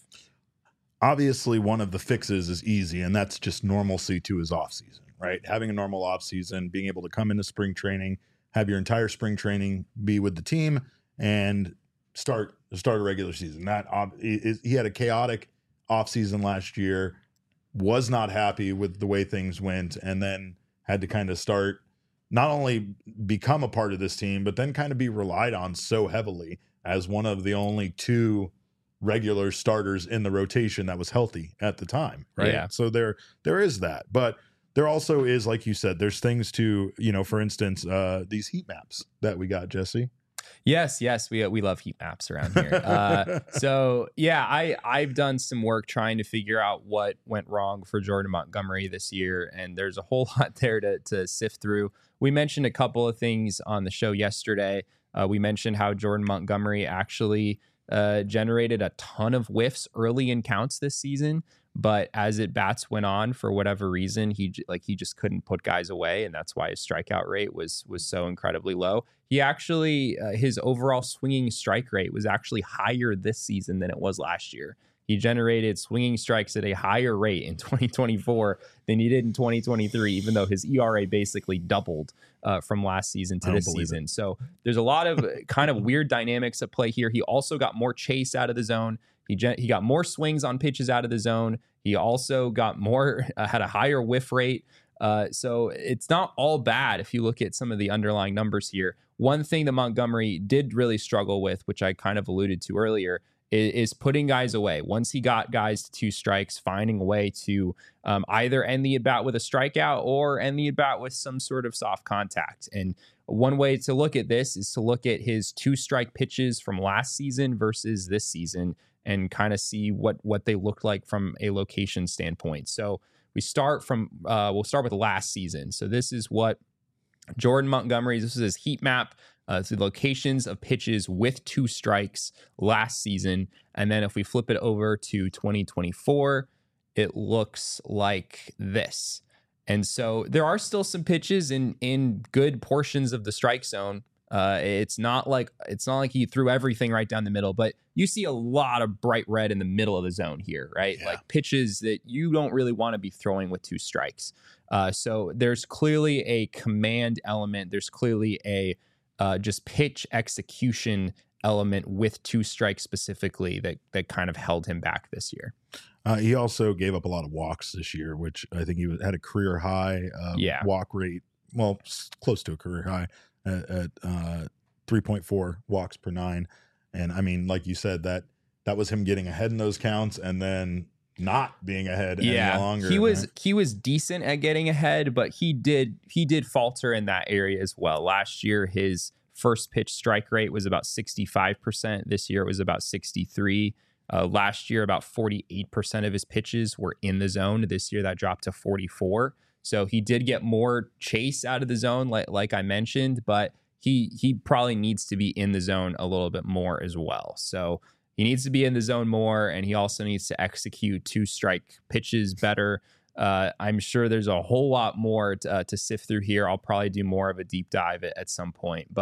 S1: Obviously, one of the fixes is easy, and that's just normalcy to his offseason, right? Having a normal offseason, being able to come into spring training, have your entire spring training be with the team, and start start a regular season. That he had a chaotic offseason last year, was not happy with the way things went, and then had to kind of start not only become a part of this team, but then kind of be relied on so heavily as one of the only two regular starters in the rotation that was healthy at the time, right?
S2: Yeah.
S1: So there there is that, but there also is, like you said, there's things to, you know, for instance, uh, these heat maps that we got, Jesse.
S2: Yes, yes, we we love heat maps around here. Uh, so yeah, I I've done some work trying to figure out what went wrong for Jordan Montgomery this year, and there's a whole lot there to to sift through. We mentioned a couple of things on the show yesterday. Uh, we mentioned how Jordan Montgomery actually uh, generated a ton of whiffs early in counts this season. But as at bats went on, for whatever reason, he like he just couldn't put guys away, and that's why his strikeout rate was was so incredibly low. He actually uh, his overall swinging strike rate was actually higher this season than it was last year. He generated swinging strikes at a higher rate in twenty twenty-four than he did in twenty twenty-three, even though his E R A basically doubled uh, from last season to this season. It. So there's a lot of kind of weird dynamics at play here. He also got more chase out of the zone. He gen- he got more swings on pitches out of the zone. He also got more, uh, had a higher whiff rate. Uh, so it's not all bad if you look at some of the underlying numbers here. One thing that Montgomery did really struggle with, which I kind of alluded to earlier, is, is putting guys away. Once he got guys to two strikes, finding a way to um, either end the at-bat with a strikeout or end the at-bat with some sort of soft contact. And one way to look at this is to look at his two-strike pitches from last season versus this season, and kind of see what what they looked like from a location standpoint. So we start from uh, we'll start with last season. So this is what Jordan Montgomery, this is his heat map. Uh, so the locations of pitches with two strikes last season. And then if we flip it over to twenty twenty-four, it looks like this. And so there are still some pitches in in good portions of the strike zone. Uh, it's not like it's not like he threw everything right down the middle, but you see a lot of bright red in the middle of the zone here, right? Yeah. Like pitches that you don't really want to be throwing with two strikes. Uh, so there's clearly a command element. There's clearly a uh, just pitch execution element with two strikes specifically that that kind of held him back this year.
S1: Uh, he also gave up a lot of walks this year, which I think he had a career high uh,
S2: yeah.
S1: walk rate. Well, close to a career high. At, at uh, three point four walks per nine. And I mean, like you said, that that was him getting ahead in those counts and then not being ahead
S2: yeah,
S1: any longer.
S2: He was
S1: right?
S2: he was decent at getting ahead, but he did he did falter in that area as well. Last year, his first pitch strike rate was about sixty-five percent. This year it was about sixty-three. Uh, last year, about forty-eight percent of his pitches were in the zone. This year that dropped to forty-four. So he did get more chase out of the zone, like like I mentioned, but he he probably needs to be in the zone a little bit more as well. So he needs to be in the zone more, and he also needs to execute two strike pitches better. Uh, I'm sure there's a whole lot more to, uh, to sift through here. I'll probably do more of a deep dive at, at some point, but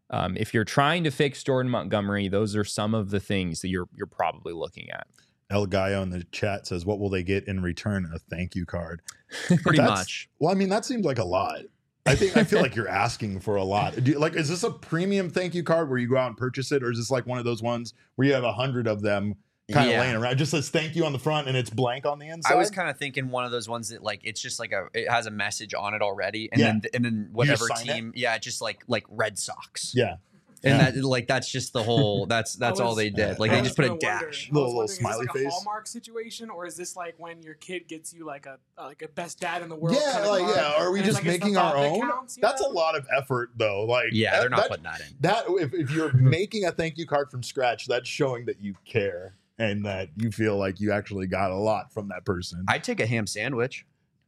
S2: um, if you're trying to fix Jordan Montgomery, those are some of the things that you're you're probably looking at.
S1: El Gallo in the chat says, what will they get in return? A thank you card.
S3: Pretty
S1: That's-
S3: much.
S1: Well, I mean, that seems like a lot. I think I feel like you're asking for a lot. Do you, like, is this a premium thank you card where you go out and purchase it, or is this like one of those ones where you have a hundred of them kind of
S3: Yeah.
S1: laying around? It just says thank you on the front and it's blank on the inside.
S3: I was kind of thinking one of those ones that like it's just like a it has a message on it already, and
S1: Yeah.
S3: then and then whatever
S1: sign it?
S3: team, yeah, just like like Red Sox,
S1: yeah,
S3: and
S1: Yeah.
S3: that like that's just the whole that's that's all
S6: was-
S3: they did. Like
S1: I
S3: they
S1: was
S3: just put a
S6: gonna wonder-
S3: dash.
S6: I was
S1: Little- little
S6: wondering, is this
S1: smiley
S6: like
S1: face.
S6: a Hallmark situation, or is this like when your kid gets you like a uh, like a best dad in the world?
S1: yeah,
S6: kind of
S1: like
S6: card,
S1: yeah. Are we
S6: and it's
S1: just
S6: like, it's the
S1: making our
S6: thought that
S1: own?
S6: counts, you
S1: That's
S6: know?
S1: a lot of effort, though. Like,
S3: Yeah,
S1: that-
S3: they're not
S1: that-
S3: putting that in.
S1: that. If, if you're making a thank you card from scratch, that's showing that you care and that you feel like you actually got a lot from that person.
S3: I'd take a ham sandwich.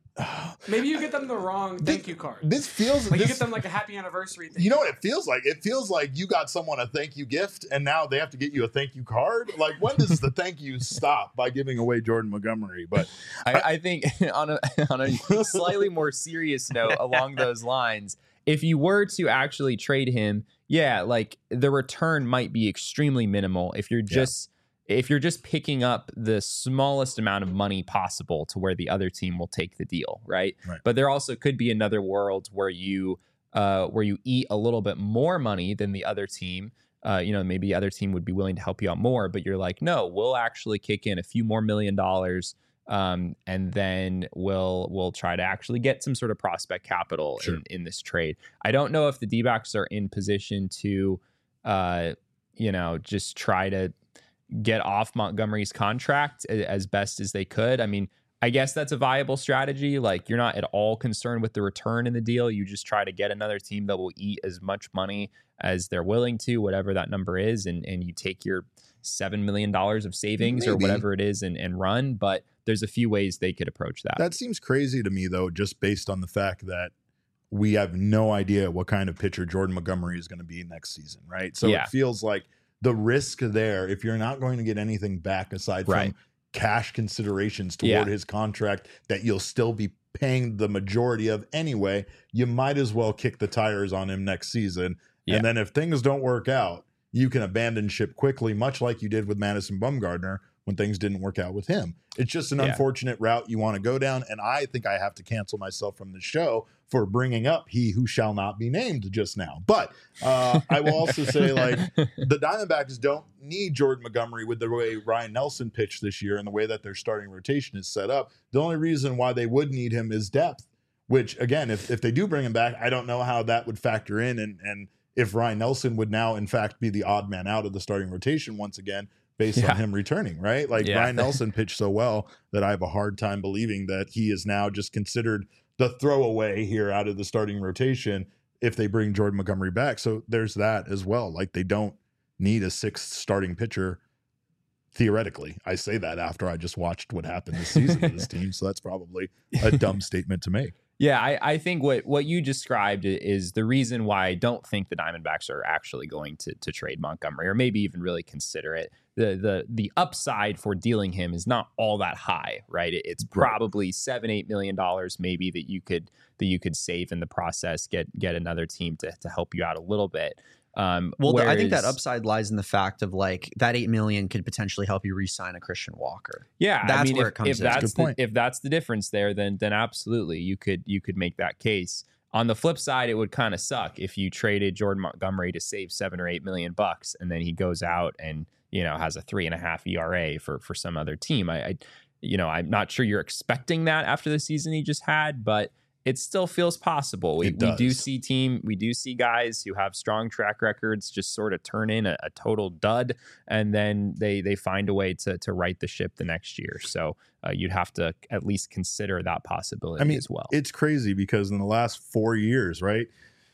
S6: Maybe you get them the wrong
S1: This-
S6: thank you card.
S1: This feels
S6: Like you
S1: this-
S6: get them like a happy anniversary thing.
S1: You know what it feels like? It feels like you got someone a thank you gift and now they have to get you a thank you card. Like, when does the thank you stop by giving away Jordan Montgomery? But
S2: I, I think on a on a slightly more serious note along those lines, if you were to actually trade him, yeah, like the return might be extremely minimal if you're just if you're just picking up the smallest amount of money possible to where the other team will take the deal, right?
S1: Right.
S2: But there also could be another world where you uh, where you eat a little bit more money than the other team. Uh, you know, maybe the other team would be willing to help you out more, but you're like, no, we'll actually kick in a few more million dollars. Um, and then we'll we'll try to actually get some sort of prospect capital
S1: Sure.
S2: in, in this trade. I don't know if the D-backs are in position to, uh, you know, just try to get off Montgomery's contract a- as best as they could. I mean, I guess that's a viable strategy. Like, you're not at all concerned with the return in the deal. You just try to get another team that will eat as much money as they're willing to, whatever that number is, and and you take your seven million dollars of savings or
S1: Maybe.
S2: whatever it is and, and run. But there's a few ways they could approach that.
S1: that seems crazy to me, though, just based on the fact that we have no idea what kind of pitcher Jordan Montgomery is going to be next season, right? So
S2: Yeah.
S1: it feels like the risk there, if you're not going to get anything back aside
S2: Right.
S1: from cash considerations toward
S2: Yeah.
S1: his contract that you'll still be paying the majority of anyway, you might as well kick the tires on him next season.
S2: Yeah.
S1: And then if things don't work out, you can abandon ship quickly, much like you did with Madison Bumgarner when things didn't work out with him. It's just an
S2: Yeah.
S1: unfortunate route you want to go down. And I think I have to cancel myself from the show for bringing up he who shall not be named just now. But uh, I will also say, like, the Diamondbacks don't need Jordan Montgomery with the way Ryan Nelson pitched this year and the way that their starting rotation is set up. The only reason why they would need him is depth, which, again, if, if they do bring him back, I don't know how that would factor in. And, and if Ryan Nelson would now, in fact, be the odd man out of the starting rotation once again, based
S2: Yeah.
S1: on him returning, right? Like,
S2: Yeah.
S1: Ryan Nelson pitched so well that I have a hard time believing that he is now just considered the throwaway here out of the starting rotation if they bring Jordan Montgomery back. So there's that as well. Like, they don't need a sixth starting pitcher theoretically. I say that after I just watched what happened this season to this team. So that's probably a dumb statement to make.
S2: Yeah, I, I think what, what you described i- is the reason why I don't think the Diamondbacks are actually going to to trade Montgomery, or maybe even really consider it. The the the upside for dealing him is not all that high, right? It, it's probably seven, eight million dollars maybe that you could that you could save in the process, get get another team to to help you out a little bit. Um,
S3: Well, the- I think that
S2: whereas-
S3: upside lies in the fact of like that eight million could potentially help you re-sign a Christian Walker.
S2: Yeah, I
S3: That's
S2: mean,
S3: where
S2: if,
S3: it comes
S2: if
S3: in.
S2: that's
S1: Good
S2: the,
S1: point.
S2: if that's the difference there, then then absolutely you could you could make that case. On the flip side, it would kind of suck if you traded Jordan Montgomery to save seven or eight million bucks, and then he goes out and you know has a three and a half E R A for for some other team. I, I you know I'm not sure you're expecting that after the season he just had, but it still feels possible. We,
S1: It
S2: we do
S1: does.
S2: see team, we do see guys who have strong track records just sort of turn in a, a total dud, and then they they find a way to to right the ship the next year. So uh, you'd have to at least consider that possibility
S1: I mean,
S2: as well.
S1: It's crazy because in the last four years, right,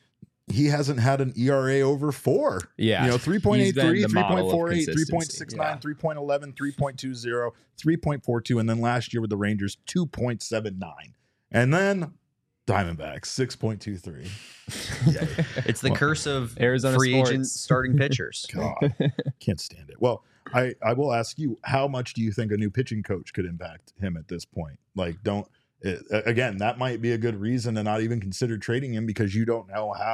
S1: he hasn't had an E R A over four.
S2: Yeah.
S1: You know, three point eight three,
S2: He's been the model of
S1: three point four eight, three point
S2: consistency.
S1: six nine,
S2: Yeah.
S1: three point one one, three point two zero, three point four two, and then last year with the Rangers, two point seven nine. And then Diamondbacks, six point two three. Yeah.
S3: It's the
S1: Well,
S3: curse of
S2: Arizona
S3: free
S2: sports.
S3: agent starting pitchers.
S1: God, can't stand it. Well, I, I will ask you, how much do you think a new pitching coach could impact him at this point? Like, don't, it, again, that might be a good reason to not even consider trading him because you don't know how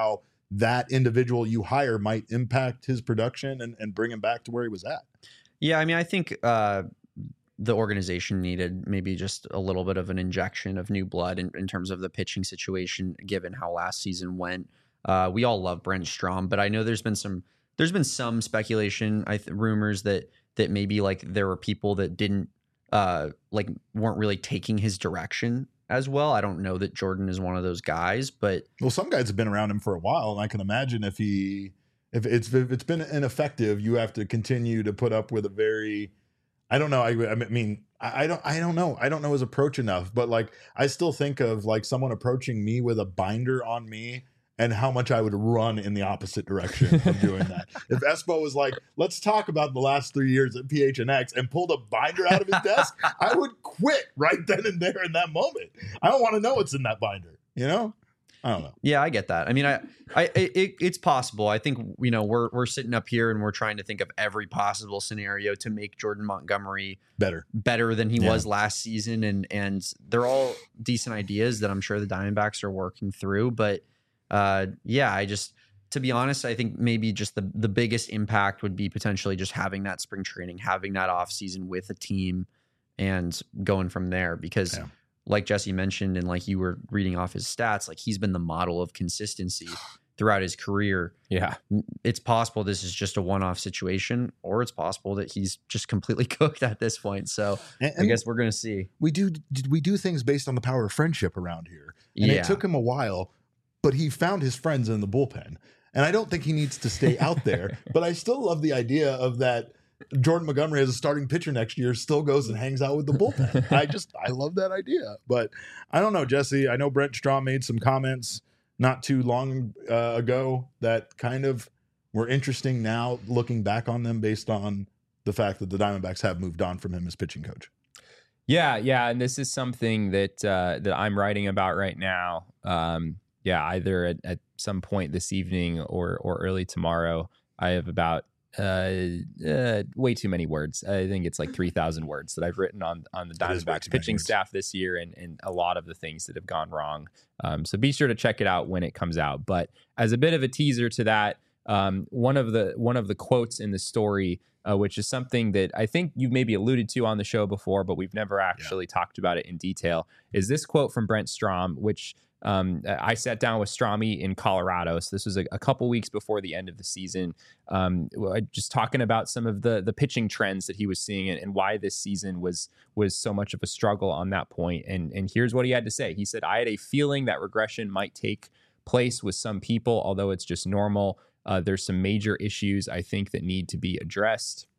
S1: that individual you hire might impact his production and, and bring him back to where he was at.
S3: Yeah, I mean, I think uh, the organization needed maybe just a little bit of an injection of new blood in, in terms of the pitching situation, given how last season went. Uh, we all love Brent Strom, but I know there's been some there's been some speculation, I th- rumors that that maybe like there were people that didn't uh, like weren't really taking his direction as well. I don't know that Jordan is one of those guys, but
S1: well, some guys have been around him for a while, and I can imagine if he if it's if it's been ineffective, you have to continue to put up with a very I don't know. I, I mean, I, I don't I don't know. I don't know his approach enough, but like I still think of like someone approaching me with a binder on me and how much I would run in the opposite direction of doing that. If Espo was like, let's talk about the last three years at P H N X and pulled a binder out of his desk, I would quit right then and there in that moment. I don't want to know what's in that binder, you know? I don't know.
S3: Yeah, I get that. I mean, I, I, it, it's possible. I think, you know, we're, we're sitting up here and we're trying to think of every possible scenario to make Jordan Montgomery
S1: better,
S3: better than he
S1: yeah.
S3: was last season. And, and they're all decent ideas that I'm sure the Diamondbacks are working through, but Uh, yeah, I just, to be honest, I think maybe just the, the biggest impact would be potentially just having that spring training, having that off season with a team and going from there. Because yeah. like Jesse mentioned, and like you were reading off his stats, like he's been the model of consistency throughout his career.
S2: Yeah.
S3: It's possible this is just a one-off situation, or it's possible that he's just completely cooked at this point. So and, and I guess we're going to see.
S1: We do, we do things based on the power of friendship around here. And
S3: yeah.
S1: it took him a while, but he found his friends in the bullpen. And I don't think he needs to stay out there, but I still love the idea of that Jordan Montgomery as a starting pitcher next year still goes and hangs out with the bullpen. I just, I love that idea. But I don't know, Jesse, I know Brent Strom made some comments not too long uh, ago that kind of were interesting now looking back on them based on the fact that the Diamondbacks have moved on from him as pitching coach.
S2: Yeah, yeah. And this is something that, uh, that I'm writing about right now. Um, Yeah, either at, at some point this evening or or early tomorrow. I have about uh, uh, way too many words. I think it's like three thousand words that I've written on on the Diamondbacks pitching staff this year and, and a lot of the things that have gone wrong. Um, so be sure to check it out when it comes out. But as a bit of a teaser to that, um, one of the one of the quotes in the story, uh, which is something that I think you maybe alluded to on the show before, but we've never actually yeah. talked about it in detail, is this quote from Brent Strom, which Um, I sat down with Stromy in Colorado. So this was a, a couple weeks before the end of the season. Um, just talking about some of the the pitching trends that he was seeing and, and why this season was was so much of a struggle on that point. And and here's what he had to say. He said, "I had a feeling that regression might take place with some people, although it's just normal. Uh, there's some major issues I think that need to be addressed."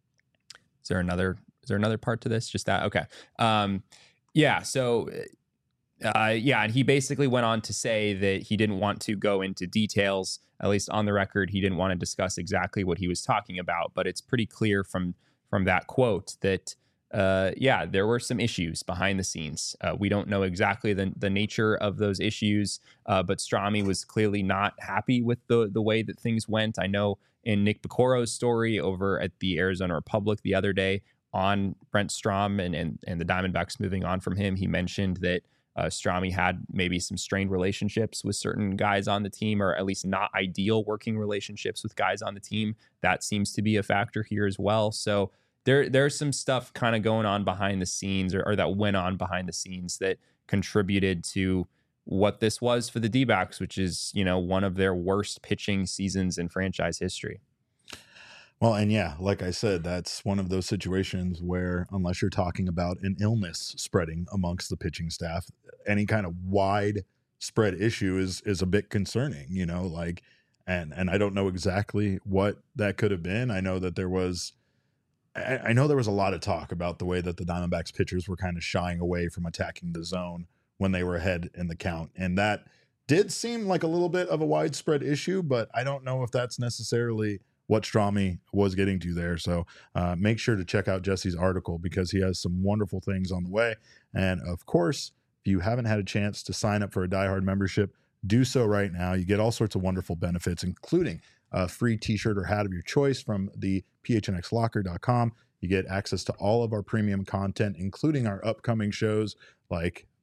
S2: Is there another? Is there another part to this? Just that? Okay. Um, yeah. So. Uh, yeah, and he basically went on to say that he didn't want to go into details, at least on the record. He didn't want to discuss exactly what he was talking about, but it's pretty clear from from that quote that, uh, yeah, there were some issues behind the scenes. Uh, we don't know exactly the, the nature of those issues, uh, but Stromy was clearly not happy with the, the way that things went. I know in Nick Picoro's story over at the Arizona Republic the other day on Brent Strom and, and, and the Diamondbacks moving on from him, he mentioned that Uh, Stromy had maybe some strained relationships with certain guys on the team, or at least not ideal working relationships with guys on the team. That seems to be a factor here as well. So there, there's some stuff kind of going on behind the scenes, or, or that went on behind the scenes that contributed to what this was for the D-backs, which is, you know, one of their worst pitching seasons in franchise history.
S1: Well, and yeah, like I said, that's one of those situations where unless you're talking about an illness spreading amongst the pitching staff, any kind of widespread issue is is a bit concerning, you know, like, and and I don't know exactly what that could have been. I know that there was, I, I know there was a lot of talk about the way that the Diamondbacks pitchers were kind of shying away from attacking the zone when they were ahead in the count. And that did seem like a little bit of a widespread issue, but I don't know if that's necessarily what Stromy was getting to there. So uh, make sure to check out Jesse's article because he has some wonderful things on the way. And of course, if you haven't had a chance to sign up for a Die Hard membership, do so right now. You get all sorts of wonderful benefits, including a free t-shirt or hat of your choice from the P H N X locker dot com. You get access to all of our premium content, including our upcoming shows like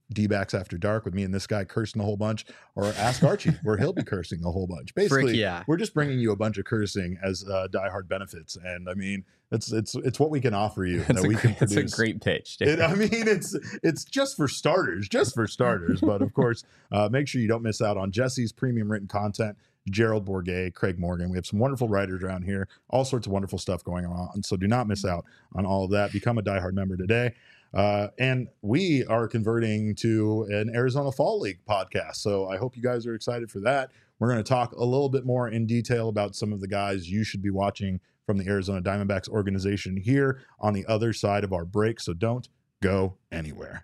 S1: D-backs After Dark with me and this guy cursing a whole bunch, or ask Archie where he'll be cursing a whole bunch. Basically,
S3: Frick yeah.
S1: we're just bringing you a bunch of cursing as uh, diehard benefits, and I mean, it's it's it's what we can offer you.
S2: That's,
S1: that
S2: a,
S1: we can
S2: great, that's a
S1: produce.
S2: great pitch.
S1: It, I mean, it's it's just for starters, just for starters. But of course, uh, make sure you don't miss out on Jesse's premium written content. Gerald Bourget, Craig Morgan. We have some wonderful writers around here, all sorts of wonderful stuff going on. So do not miss out on all of that. Become a diehard member today. Uh, and we are converting to an Arizona Fall League podcast. So I hope you guys are excited for that. We're going to talk a little bit more in detail about some of the guys you should be watching from the Arizona Diamondbacks organization here on the other side of our break. So don't go anywhere.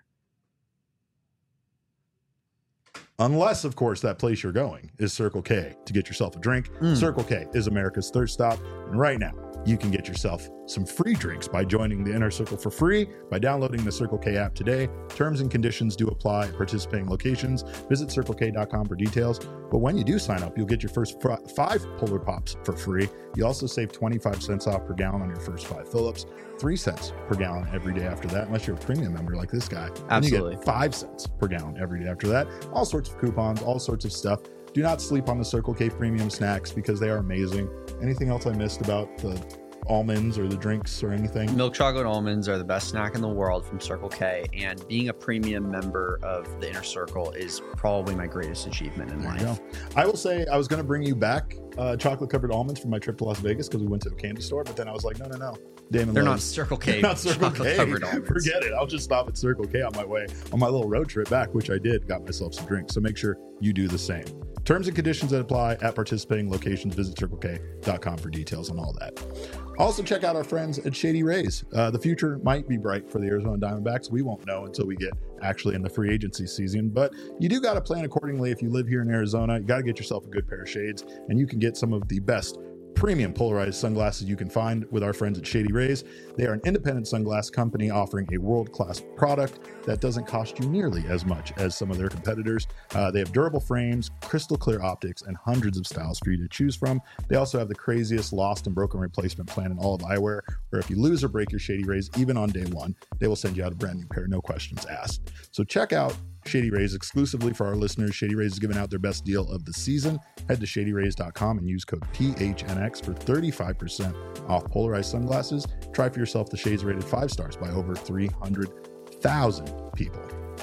S1: Unless, of course, that place you're going is Circle K to get yourself a drink.
S3: Mm.
S1: Circle K is America's thirst stop. And right now, you can get yourself some free drinks by joining the Inner Circle for free by downloading the Circle K app today. Terms and conditions do apply at participating locations. Visit circle k dot com for details. But when you do sign up, you'll get your first fr- five Polar Pops for free. You also save twenty-five cents off per gallon on your first five fill-ups, three cents per gallon every day after that, unless you're a premium member like this guy.
S3: Absolutely.
S1: You get five cents per gallon every day after that. All sorts of coupons, all sorts of stuff. Do not sleep on the Circle K premium snacks because they are amazing. Anything else I missed about the almonds or the drinks or anything?
S3: Milk chocolate almonds are the best snack in the world from Circle K, and being a premium member of the Inner Circle is probably my greatest achievement in
S1: There
S3: life.
S1: you go. I will say I was going to bring you back uh, chocolate covered almonds from my trip to Las Vegas because we went to a candy store, but then I was like, no, no, no. Damon
S3: They're not
S1: loves-
S3: Circle
S1: they're
S3: K
S1: not Circle
S3: chocolate
S1: K.
S3: covered almonds.
S1: Forget it. I'll just stop at Circle K on my way on my little road trip back, which I did. Got myself some drinks. So make sure you do the same. Terms and conditions that apply at participating locations. Visit circle k dot com for details on all that. Also, check out our friends at Shady Rays. Uh, the future might be bright for the Arizona Diamondbacks. We won't know until we get actually in the free agency season, but you do got to plan accordingly. If you live here in Arizona, you got to get yourself a good pair of shades, and you can get some of the best premium polarized sunglasses you can find with our friends at Shady Rays. They are an independent sunglass company offering a world-class product that doesn't cost you nearly as much as some of their competitors. Uh, they have durable frames, crystal clear optics, and hundreds of styles for you to choose from. They also have the craziest lost and broken replacement plan in all of eyewear, where if you lose or break your Shady Rays, even on day one, they will send you out a brand new pair, no questions asked. So check out Shady Rays exclusively for our listeners. Shady Rays is giving out their best deal of the season. Head to shady rays dot com and use code P H N X for thirty-five percent off polarized sunglasses. Try for yourself the shades rated five stars by over three hundred thousand people.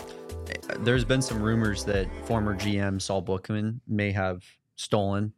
S3: There's been some rumors that former G M Saul Bookman may have stolen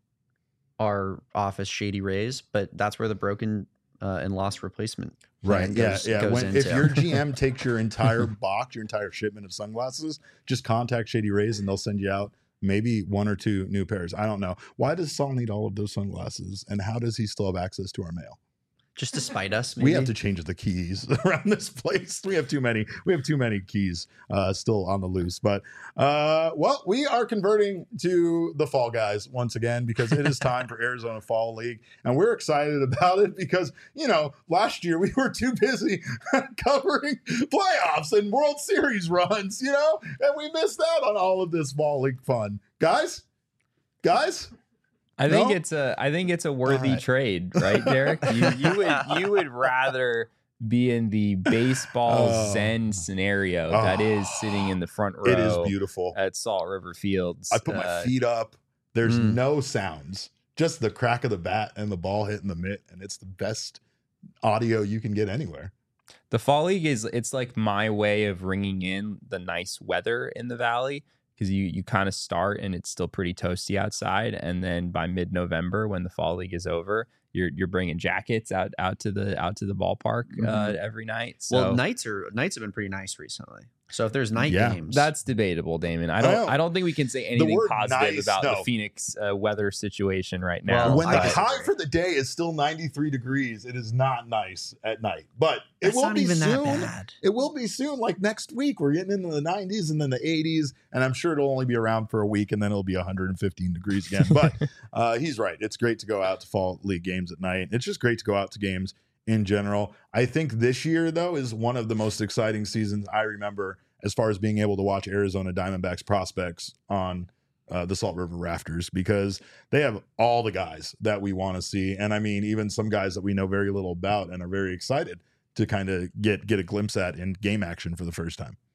S3: our office Shady Rays, but that's where the broken uh, and lost replacement
S1: Right.
S3: plan
S1: Yeah.
S3: goes,
S1: Yeah.
S3: goes
S1: When,
S3: into.
S1: if your G M takes your entire box, your entire shipment of sunglasses, just contact Shady Rays and they'll send you out maybe one or two new pairs. I don't know. Why does Saul need all of those sunglasses? And how does he still have access to our mail?
S3: Just to spite us, maybe?
S1: We have to change the keys around this place. We have too many. We have too many keys uh, still on the loose. But uh, well, we are converting to the Fall Guys once again because it is time for Arizona Fall League, and we're excited about it because you know last year we were too busy covering playoffs and World Series runs, you know, and we missed out on all of this Fall League fun, guys. Guys.
S2: I think
S1: No?
S2: it's a I think it's a worthy
S1: right.
S2: trade, right, Derek? You, you would you would rather be in the baseball
S1: Oh.
S2: zen scenario that is
S1: Oh.
S2: sitting in the front row
S1: It is beautiful.
S2: at Salt River Fields.
S1: I put my
S2: Uh,
S1: feet up. There's
S3: Mm.
S1: no sounds, just the crack of the bat and the ball hitting the mitt, and it's the best audio you can get anywhere.
S2: The Fall League is it's like my way of ringing in the nice weather in the valley because you you kind of start and it's still pretty toasty outside, and then by mid-November when the Fall League is over, you're you're bringing jackets out out to the out to the ballpark uh,
S3: Mhm.
S2: every night. So
S3: Well, nights are nights have been pretty nice recently. So if there's night
S1: Yeah.
S3: games,
S2: that's debatable, Damon. I
S1: I
S2: don't
S1: know.
S2: I don't think we can say anything
S1: word
S2: positive
S1: nice,
S2: about
S1: no.
S2: the Phoenix uh, weather situation right now.
S3: Well,
S1: when the
S3: I
S1: high
S3: disagree.
S1: for the day is still ninety-three degrees, it is not nice at night. But it
S3: that's
S1: will
S3: not
S1: be
S3: even
S1: soon.
S3: that bad.
S1: It will be soon, like next week. We're getting into the nineties and then the eighties, and I'm sure it'll only be around for a week, and then it'll be one hundred fifteen degrees again. But uh, he's right. It's great to go out to fall league games at night. It's just great to go out to games in general. I think this year, though, is one of the most exciting seasons I remember as far as being able to watch Arizona Diamondbacks prospects on uh, the Salt River Rafters, because they have all the guys that we want to see. And I mean, even some guys that we know very little about and are very excited to kind of get get a glimpse at in game action for the first time.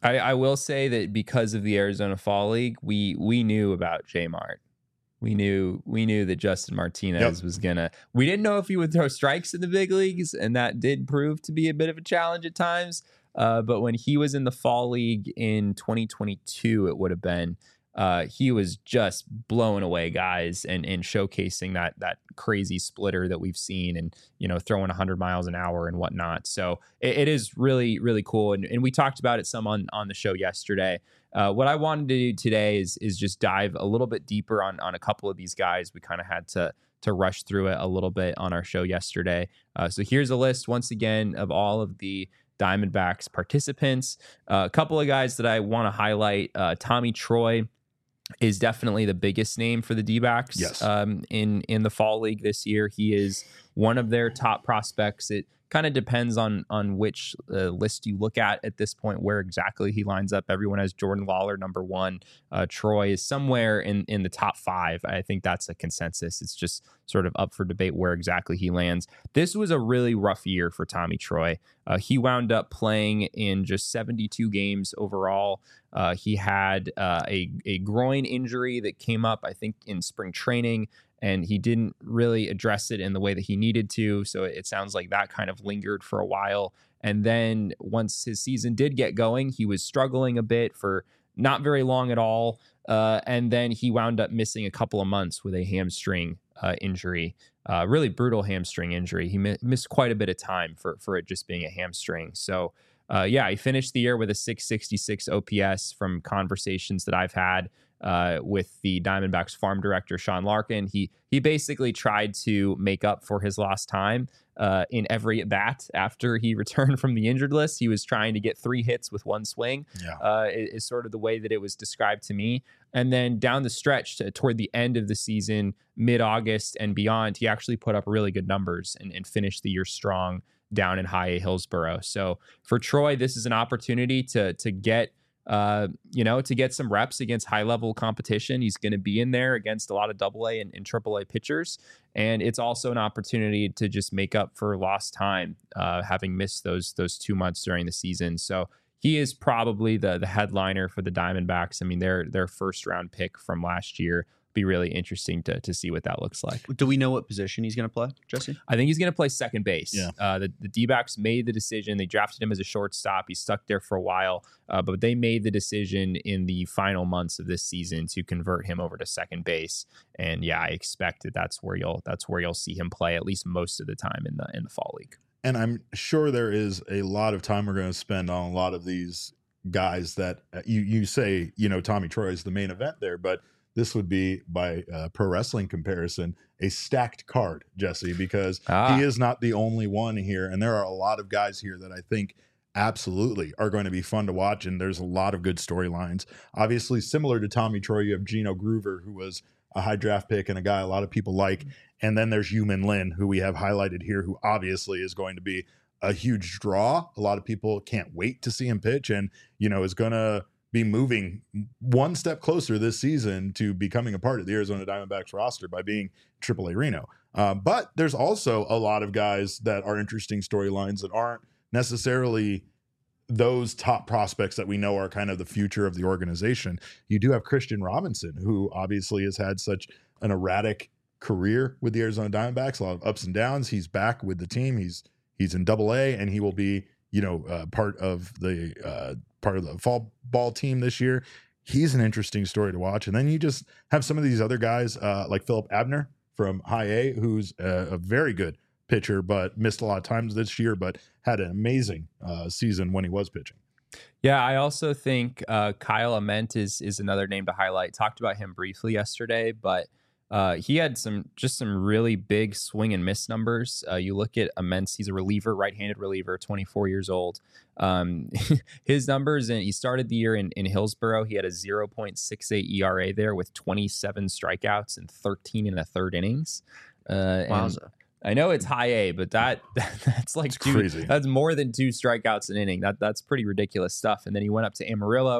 S2: I, I will say that because of the Arizona Fall League, we we knew about J Mart. We knew we knew that Justin Martinez yep. was gonna. We didn't know if he would throw strikes in the big leagues, and that did prove to be a bit of a challenge at times. Uh, but when he was in the Fall League in twenty twenty-two, it would have been. Uh, he was just blowing away guys and and showcasing that that crazy splitter that we've seen, and you know throwing one hundred miles an hour and whatnot. So it, it is really really cool, and, and we talked about it some on on the show yesterday. Uh, what I wanted to do today is is just dive a little bit deeper on on a couple of these guys. We kind of had to to rush through it a little bit on our show yesterday. Uh, so here's a list once again of all of the Diamondbacks participants. Uh, a couple of guys that I want to highlight. Uh, Tommy Troy is definitely the biggest name for the D-backs
S1: yes.
S2: um, in in the Fall League this year. He is one of their top prospects. It kind of depends on on which uh, list you look at at this point, where exactly he lines up. Everyone has Jordan Lawler number one. Uh, Troy is somewhere in, in the top five. I think that's a consensus. It's just sort of up for debate where exactly he lands. This was a really rough year for Tommy Troy. Uh, he wound up playing in just seventy-two games overall. Uh, he had uh, a, a groin injury that came up, I think, in spring training, and he didn't really address it in the way that he needed to. So it sounds like that kind of lingered for a while. And then once his season did get going, he was struggling a bit for not very long at all. Uh, and then he wound up missing a couple of months with a hamstring uh, injury, uh, really brutal hamstring injury. He mi- missed quite a bit of time for, for it just being a hamstring. So uh, yeah, he finished the year with a six sixty-six O P S from conversations that I've had Uh, with the Diamondbacks farm director, Sean Larkin. He he basically tried to make up for his lost time uh, in every at bat after he returned from the injured list. He was trying to get three hits with one swing,
S1: yeah.
S2: uh, is, is sort of the way that it was described to me. And then down the stretch to, toward the end of the season, mid-August and beyond, he actually put up really good numbers and, and finished the year strong down in High A Hillsboro. So for Troy, this is an opportunity to to get Uh, you know, to get some reps against high level competition. He's going to be in there against a lot of double A and, and triple A pitchers. And it's also an opportunity to just make up for lost time, uh, having missed those, those two months during the season. So he is probably the, the headliner for the Diamondbacks. I mean, their, their first round pick from last year. Be really interesting to to see what that looks like.
S3: Do we know what position he's going to play, Jesse?
S2: I think he's going to play second base.
S1: Yeah.
S2: Uh, the, the D-backs made the decision. They drafted him as a shortstop. He stuck there for a while, uh, but they made the decision in the final months of this season to convert him over to second base. And yeah, I expect that that's where you'll that's where you'll see him play at least most of the time in the in the Fall League.
S1: And I'm sure there is a lot of time we're going to spend on a lot of these guys that uh, you you say, you know, Tommy Troy is the main event there, but this would be, by uh, pro wrestling comparison, a stacked card, Jesse, because
S2: ah.
S1: he is not the only one here. And there are a lot of guys here that I think absolutely are going to be fun to watch. And there's a lot of good storylines. Obviously, similar to Tommy Troy, you have Gino Groover, who was a high draft pick and a guy a lot of people like. And then there's Yu-Min Lin, who we have highlighted here, who obviously is going to be a huge draw. A lot of people can't wait to see him pitch and, you know, is going to be moving one step closer this season to becoming a part of the Arizona Diamondbacks roster by being triple A Reno. Uh, but there's also a lot of guys that are interesting storylines that aren't necessarily those top prospects that we know are kind of the future of the organization. You do have Christian Robinson, who obviously has had such an erratic career with the Arizona Diamondbacks, a lot of ups and downs. He's back with the team. He's he's in double A, and he will be, you know, uh, part of the uh, part of the fall ball team this year. He's an interesting story to watch. And then you just have some of these other guys uh, like Philip Abner from High A, who's a, a very good pitcher, but missed a lot of times this year, but had an amazing uh, season when he was pitching.
S2: Yeah, I also think uh, Kyle Ament is is another name to highlight. Talked about him briefly yesterday, but Uh, he had some just some really big swing and miss numbers. Uh, you look at Ament, he's a reliever, right-handed reliever, twenty-four years old. Um, his numbers, and he started the year in, in Hillsboro. He had a zero point six eight E R A there with twenty-seven strikeouts and thirteen and a third innings. Uh,
S3: Wowza.
S2: I know it's high A, but that, that that's like two,
S1: crazy.
S2: That's more than two strikeouts an inning. That that's pretty ridiculous stuff. And then he went up to Amarillo.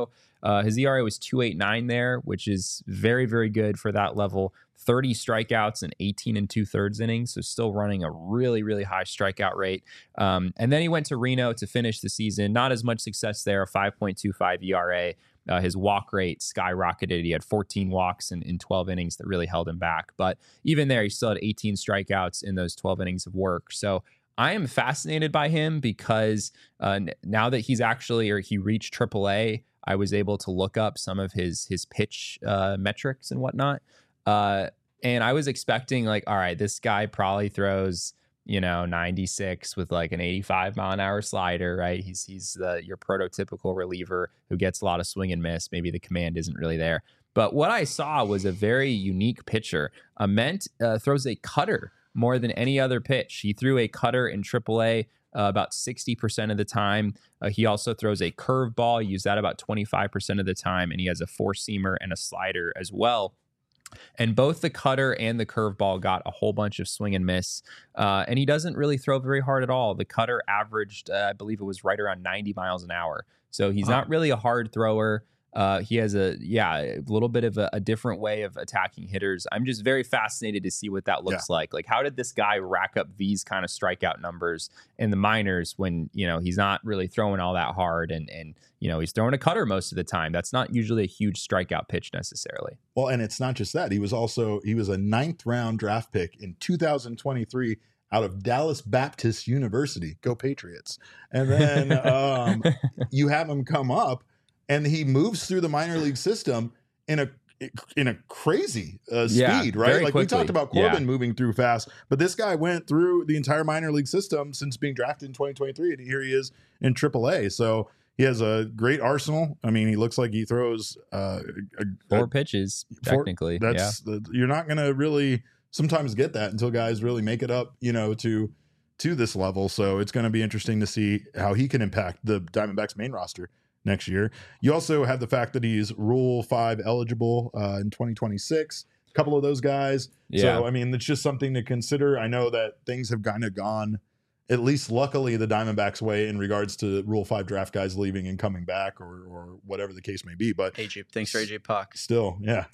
S2: Uh, his E R A was two point eight nine there, which is very, very good for that level. thirty strikeouts and eighteen and two thirds innings. So still running a really, really high strikeout rate. Um, and then he went to Reno to finish the season. Not as much success there, a five point two five E R A. Uh, his walk rate skyrocketed. He had fourteen walks in, in twelve innings that really held him back. But even there, he still had eighteen strikeouts in those twelve innings of work. So I am fascinated by him because uh, now that he's actually, or he reached triple A, I was able to look up some of his his pitch uh, metrics and whatnot. Uh, and I was expecting like, all right, this guy probably throws, you know, ninety-six with like an eighty-five mile an hour slider, right? He's he's the your prototypical reliever who gets a lot of swing and miss. Maybe the command isn't really there. But what I saw was a very unique pitcher. Ament uh, throws a cutter more than any other pitch. He threw a cutter in triple A uh, about sixty percent of the time. Uh, he also throws a curveball. He used that about twenty-five percent of the time. And he has a four-seamer and a slider as well. And both the cutter and the curveball got a whole bunch of swing and miss. Uh, and he doesn't really throw very hard at all. The cutter averaged, uh, I believe it was right around ninety miles an hour. So he's
S1: Wow.
S2: not really a hard thrower. Uh, he has a, yeah, a little bit of a, a different way of attacking hitters. I'm just very fascinated to see what that looks like. Like, how did this guy rack up these kind of strikeout numbers in the minors when, you know, he's not really throwing all that hard and, and, you know, he's throwing a cutter most of the time. That's not usually a huge strikeout pitch necessarily.
S1: Well, and it's not just that. He was also, he was a ninth round draft pick in two thousand twenty-three out of Dallas Baptist University. Go Patriots. And then um, you have him come up and he moves through the minor league system in a in a crazy uh,
S2: Yeah,
S1: speed, right?
S2: very
S1: Like
S2: quickly.
S1: we talked about Corbin
S2: Yeah.
S1: moving through fast, but this guy went through the entire minor league system since being drafted in twenty twenty-three, and here he is in triple A. So he has a great arsenal. I mean, he looks like he throws uh, a,
S2: Four
S1: a,
S2: pitches,
S1: four-
S2: technically. yeah.
S1: That's the, you're not going to really sometimes get that until guys really make it up, you know, to to this level. So it's going to be interesting to see how he can impact the Diamondbacks main roster next year. You also have the fact that he's Rule five eligible uh, in twenty twenty-six. A couple of those guys.
S2: Yeah.
S1: So I mean, it's just something to consider. I know that things have kind of gone, at least luckily, the Diamondbacks way in regards to Rule five draft guys leaving and coming back, or or whatever the case may be. But
S3: A J, thanks for A J Puck.
S1: still, yeah.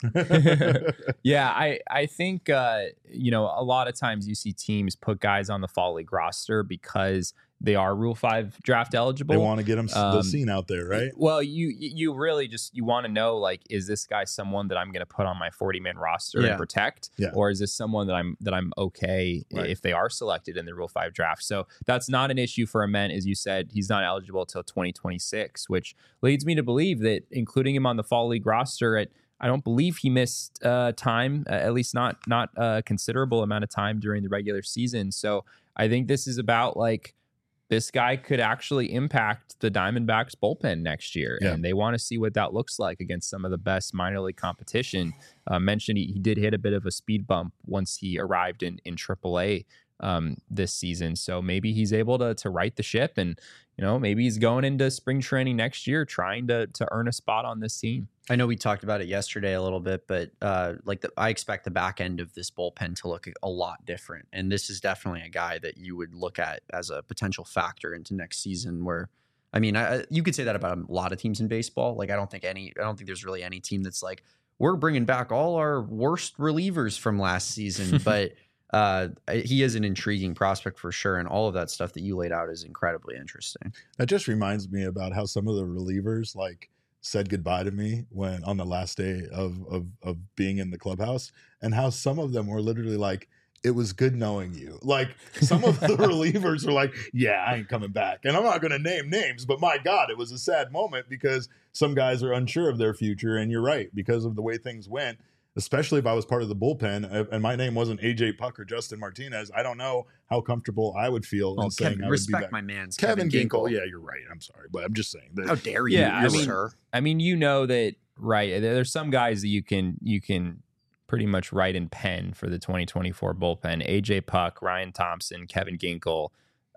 S2: Yeah, I, I think, uh, you know, a lot of times you see teams put guys on the fall league roster because they are Rule five draft eligible.
S1: They want to get them the
S2: Um,
S1: scene out there, right?
S2: Well, you you really just, you want to know, like, is this guy someone that I'm going to put on my forty man roster
S3: Yeah.
S2: and protect?
S1: Yeah.
S2: Or is this someone that I'm that I'm okay
S1: Right.
S2: if they are selected in the Rule five draft? So that's not an issue for Ament. As you said, he's not eligible till twenty twenty-six, which leads me to believe that including him on the fall league roster at, I don't believe he missed uh, time, uh, at least not not a considerable amount of time during the regular season. So I think this is about, like, this guy could actually impact the Diamondbacks bullpen next year.
S1: Yeah.
S2: And they want to see what that looks like against some of the best minor league competition. Uh, mentioned he, he did hit a bit of a speed bump once he arrived in, in triple A um, this season. So maybe he's able to to right the ship, and, you know, maybe he's going into spring training next year trying to to earn a spot on this team.
S3: I know we talked about it yesterday a little bit, but uh, like the, I expect the back end of this bullpen to look a lot different. And this is definitely a guy that you would look at as a potential factor into next season. Where, I mean, I, you could say that about a lot of teams in baseball. Like, I don't think any, I don't think there's really any team that's like, we're bringing back all our worst relievers from last season. But uh, he is an intriguing prospect for sure. And all of that stuff that you laid out is incredibly interesting.
S1: That just reminds me about how some of the relievers like said goodbye to me when on the last day of of of being in the clubhouse, and how some of them were literally like, it was good knowing you. Like, some of the relievers were like, yeah, I ain't coming back. And I'm not going to name names, but my God, it was a sad moment because some guys are unsure of their future. And you're right, because of the way things went, especially if I was part of the bullpen and my name wasn't A J Puck or Justin Martinez, I don't know how comfortable I would feel
S3: Well,
S1: in saying
S3: Kevin,
S1: I would be
S3: respect
S1: back.
S3: my man's
S1: Kevin,
S3: Kevin,
S1: Ginkel.
S3: Ginkel.
S1: Yeah, you're right. I'm sorry, but I'm just saying that.
S3: How dare you,
S2: Yeah, I
S3: you're
S2: mean-
S3: sir?
S2: I mean, you know that, right? there- There's some guys that you can you can pretty much write in pen for the twenty twenty-four bullpen. A J Puck, Ryan Thompson, Kevin Ginkel,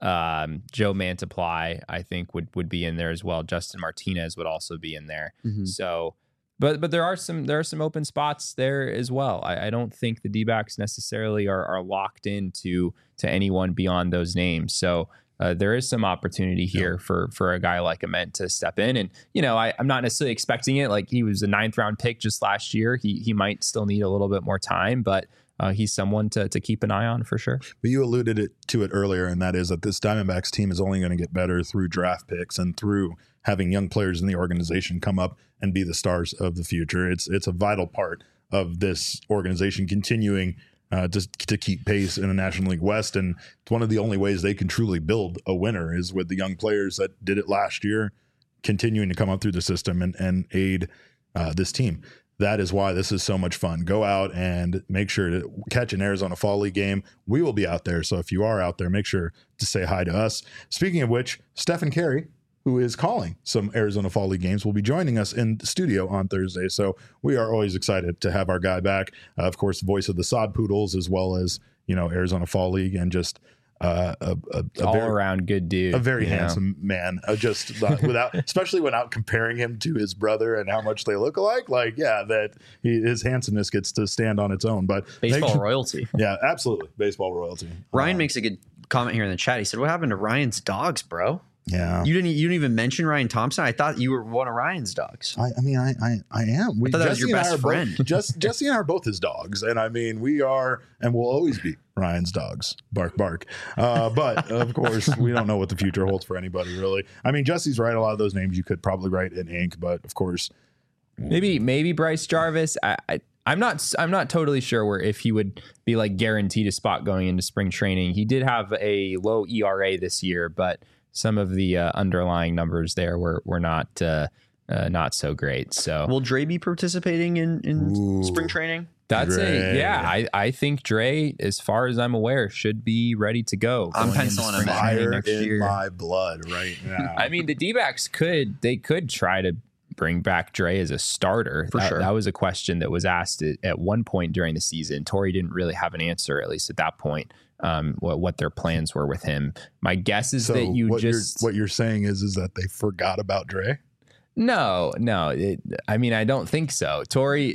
S2: um, Joe Mantiply, I think would would be in there as well. Justin Martinez would also be in there.
S3: Mhm.
S2: So, but but there are some there are some open spots there as well. I, I don't think the D-backs necessarily are are locked into to anyone beyond those names. So. uh, there is some opportunity here yeah. for for a guy like Ament to step in. And, you know, I, I'm not necessarily expecting it. Like, he was a ninth round pick just last year. He he might still need a little bit more time, but uh, he's someone to to keep an eye on for sure.
S1: But you alluded it, to it earlier, and that is that this Diamondbacks team is only going to get better through draft picks and through having young players in the organization come up and be the stars of the future. It's it's a vital part of this organization continuing uh, to, to keep pace in the National League West. And it's one of the only ways they can truly build a winner is with the young players that did it last year, continuing to come up through the system and, and aid uh, this team. That is why this is so much fun. Go out and make sure to catch an Arizona Fall League game. We will be out there. So if you are out there, make sure to say hi to us. Speaking of which, Stephen Carey, who is calling some Arizona Fall League games, will be joining us in the studio on Thursday. So we are always excited to have our guy back. Uh, of course, voice of the Sod Poodles, as well as, you know, Arizona Fall League, and just uh, a, a, a
S2: all
S1: very,
S2: around good dude,
S1: a very handsome
S2: know?
S1: man. Uh, just uh, without, especially without comparing him to his brother and how much they look alike. Like, yeah, that he, his handsomeness gets to stand on its own. But
S3: baseball
S1: make,
S3: royalty.
S1: Yeah, absolutely, baseball royalty.
S3: Ryan
S1: um,
S3: makes a good comment here in the chat. He said, "What happened to Ryan's dogs, bro?"
S1: Yeah,
S3: you didn't. You didn't even mention Ryan Thompson. I thought you were one of Ryan's dogs.
S1: I, I mean, I, I, I am. We,
S3: I thought that was your best friend.
S1: Both, just Jesse and I are both his dogs, and I mean, we are and will always be Ryan's dogs. Bark, bark. Uh, but of course, we don't know what the future holds for anybody, really. I mean, Jesse's right. A lot of those names you could probably write in ink, but of course,
S2: maybe maybe Bryce Jarvis. I, I I'm not I'm not totally sure where if he would be like guaranteed a spot going into spring training. He did have a low E R A this year, but some of the uh, underlying numbers there were were not uh, uh, not so great. So
S3: will Dre be participating in, in
S1: Ooh,
S3: spring training?
S2: That's
S1: Dre.
S2: a yeah. I, I think Dre, as far as I'm aware, should be ready to go.
S3: I'm penciling him in.
S1: Fire
S2: next
S1: in
S2: year.
S1: my blood right now.
S2: I mean, the D-backs could they could try to bring back Dre as a starter.
S3: For
S2: that,
S3: sure.
S2: That was a question that was asked at, at one point during the season. Torey didn't really have an answer, at least at that point. Um, what, what their plans were with him. My guess is
S1: so
S2: that you
S1: what
S2: just
S1: you're, what you're saying is is that they forgot about Dre.
S2: no, no. It, I mean, I don't think so. Torey,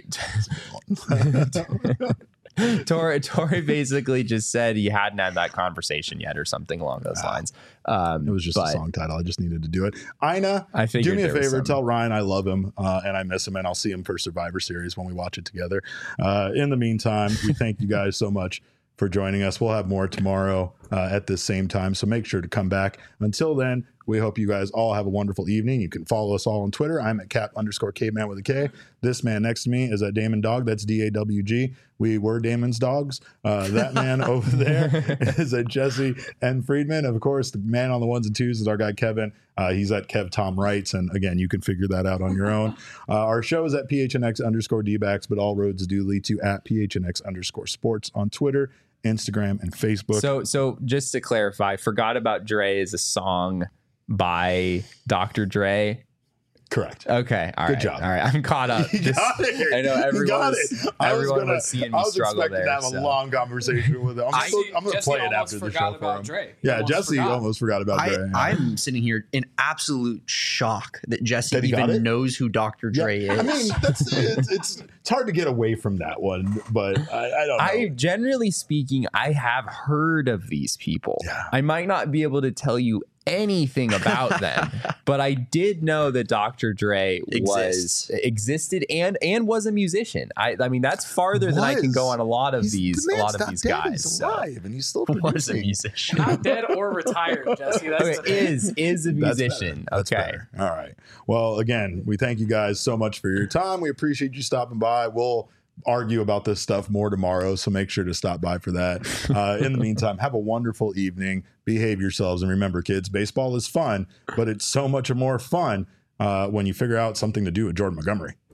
S2: Torey, Torey basically just said he hadn't had that conversation yet, or something along those
S1: Wow.
S2: lines. Um,
S1: It was just
S2: but
S1: a song title. I just needed to do it. Ina,
S2: I
S1: do
S2: figured
S1: me a
S2: there was
S1: favor.
S2: some-
S1: Tell Ryan I love him uh, and I miss him, and I'll see him for Survivor Series when we watch it together. Uh, in the meantime, we thank you guys so much for joining us. We'll have more tomorrow uh, at this same time, so make sure to come back. Until then, we hope you guys all have a wonderful evening. You can follow us all on Twitter. I'm at cap underscore caveman with a K. This man next to me is at Damon Dog. That's D A W G. We were Damon's dogs. Uh, that man over there is at Jesse and Friedman. Of course, the man on the ones and twos is our guy Kevin. Uh, he's at Kev Tom Wrights. And again, you can figure that out on your own. Uh, our show is at P H N X underscore D-backs, but all roads do lead to at P H N X underscore sports on Twitter, Instagram, and Facebook.
S2: So, so just to clarify, Forgot About Dre is a song by Doctor Dre.
S1: Correct.
S2: Okay. All
S1: Good
S2: right.
S1: job.
S2: All right. I'm caught up.
S1: You
S2: Just-
S1: got it.
S2: I know
S1: You
S2: everyone
S1: got
S2: was,
S1: it. I was
S2: everyone
S1: gonna-
S2: was seeing
S1: I
S2: me
S1: was
S2: struggle
S1: expecting
S2: there.
S1: to have
S2: so.
S1: a long conversation with him. I'm,
S6: I-
S1: still, I'm going to
S6: Jesse
S1: play it
S6: almost
S1: after the
S6: forgot
S1: show
S6: about
S1: for him.
S6: Dre. He
S1: Yeah,
S6: almost
S1: Jesse
S6: forgot.
S1: almost forgot about
S3: I,
S1: Dre. Yeah.
S3: I'm sitting here in absolute shock that Jesse
S1: That he got
S3: even
S1: it?
S3: knows who Doctor
S1: Yeah,
S3: Dre is.
S1: I mean, that's it's, it's it's hard to get away from that one, but I, I don't know.
S2: I generally speaking, I have heard of these people.
S1: Yeah.
S2: I might not be able to tell you anything about them, but I did know that Doctor Dre
S3: Exists.
S2: was existed and and was a musician. I I mean that's farther than I can go
S1: Was.
S2: on a lot of
S1: He's-
S2: these
S1: the
S2: a
S1: man's
S2: lot of
S1: not
S2: these
S1: dead,
S2: guys.
S1: He's
S2: so.
S1: alive, and he's still
S3: was a
S1: producing.
S3: musician.
S6: Not dead or retired, Jesse. That's
S2: Okay,
S6: the thing.
S2: is is a
S1: That's
S2: musician.
S1: better. That's
S2: okay.
S1: better. All right. Well, again, we thank you guys so much for your time. We appreciate you stopping by. We'll argue about this stuff more tomorrow, so make sure to stop by for that. Uh, in the meantime, have a wonderful evening. Behave yourselves, and remember, kids, baseball is fun, but it's so much more fun uh, when you figure out something to do with Jordan Montgomery.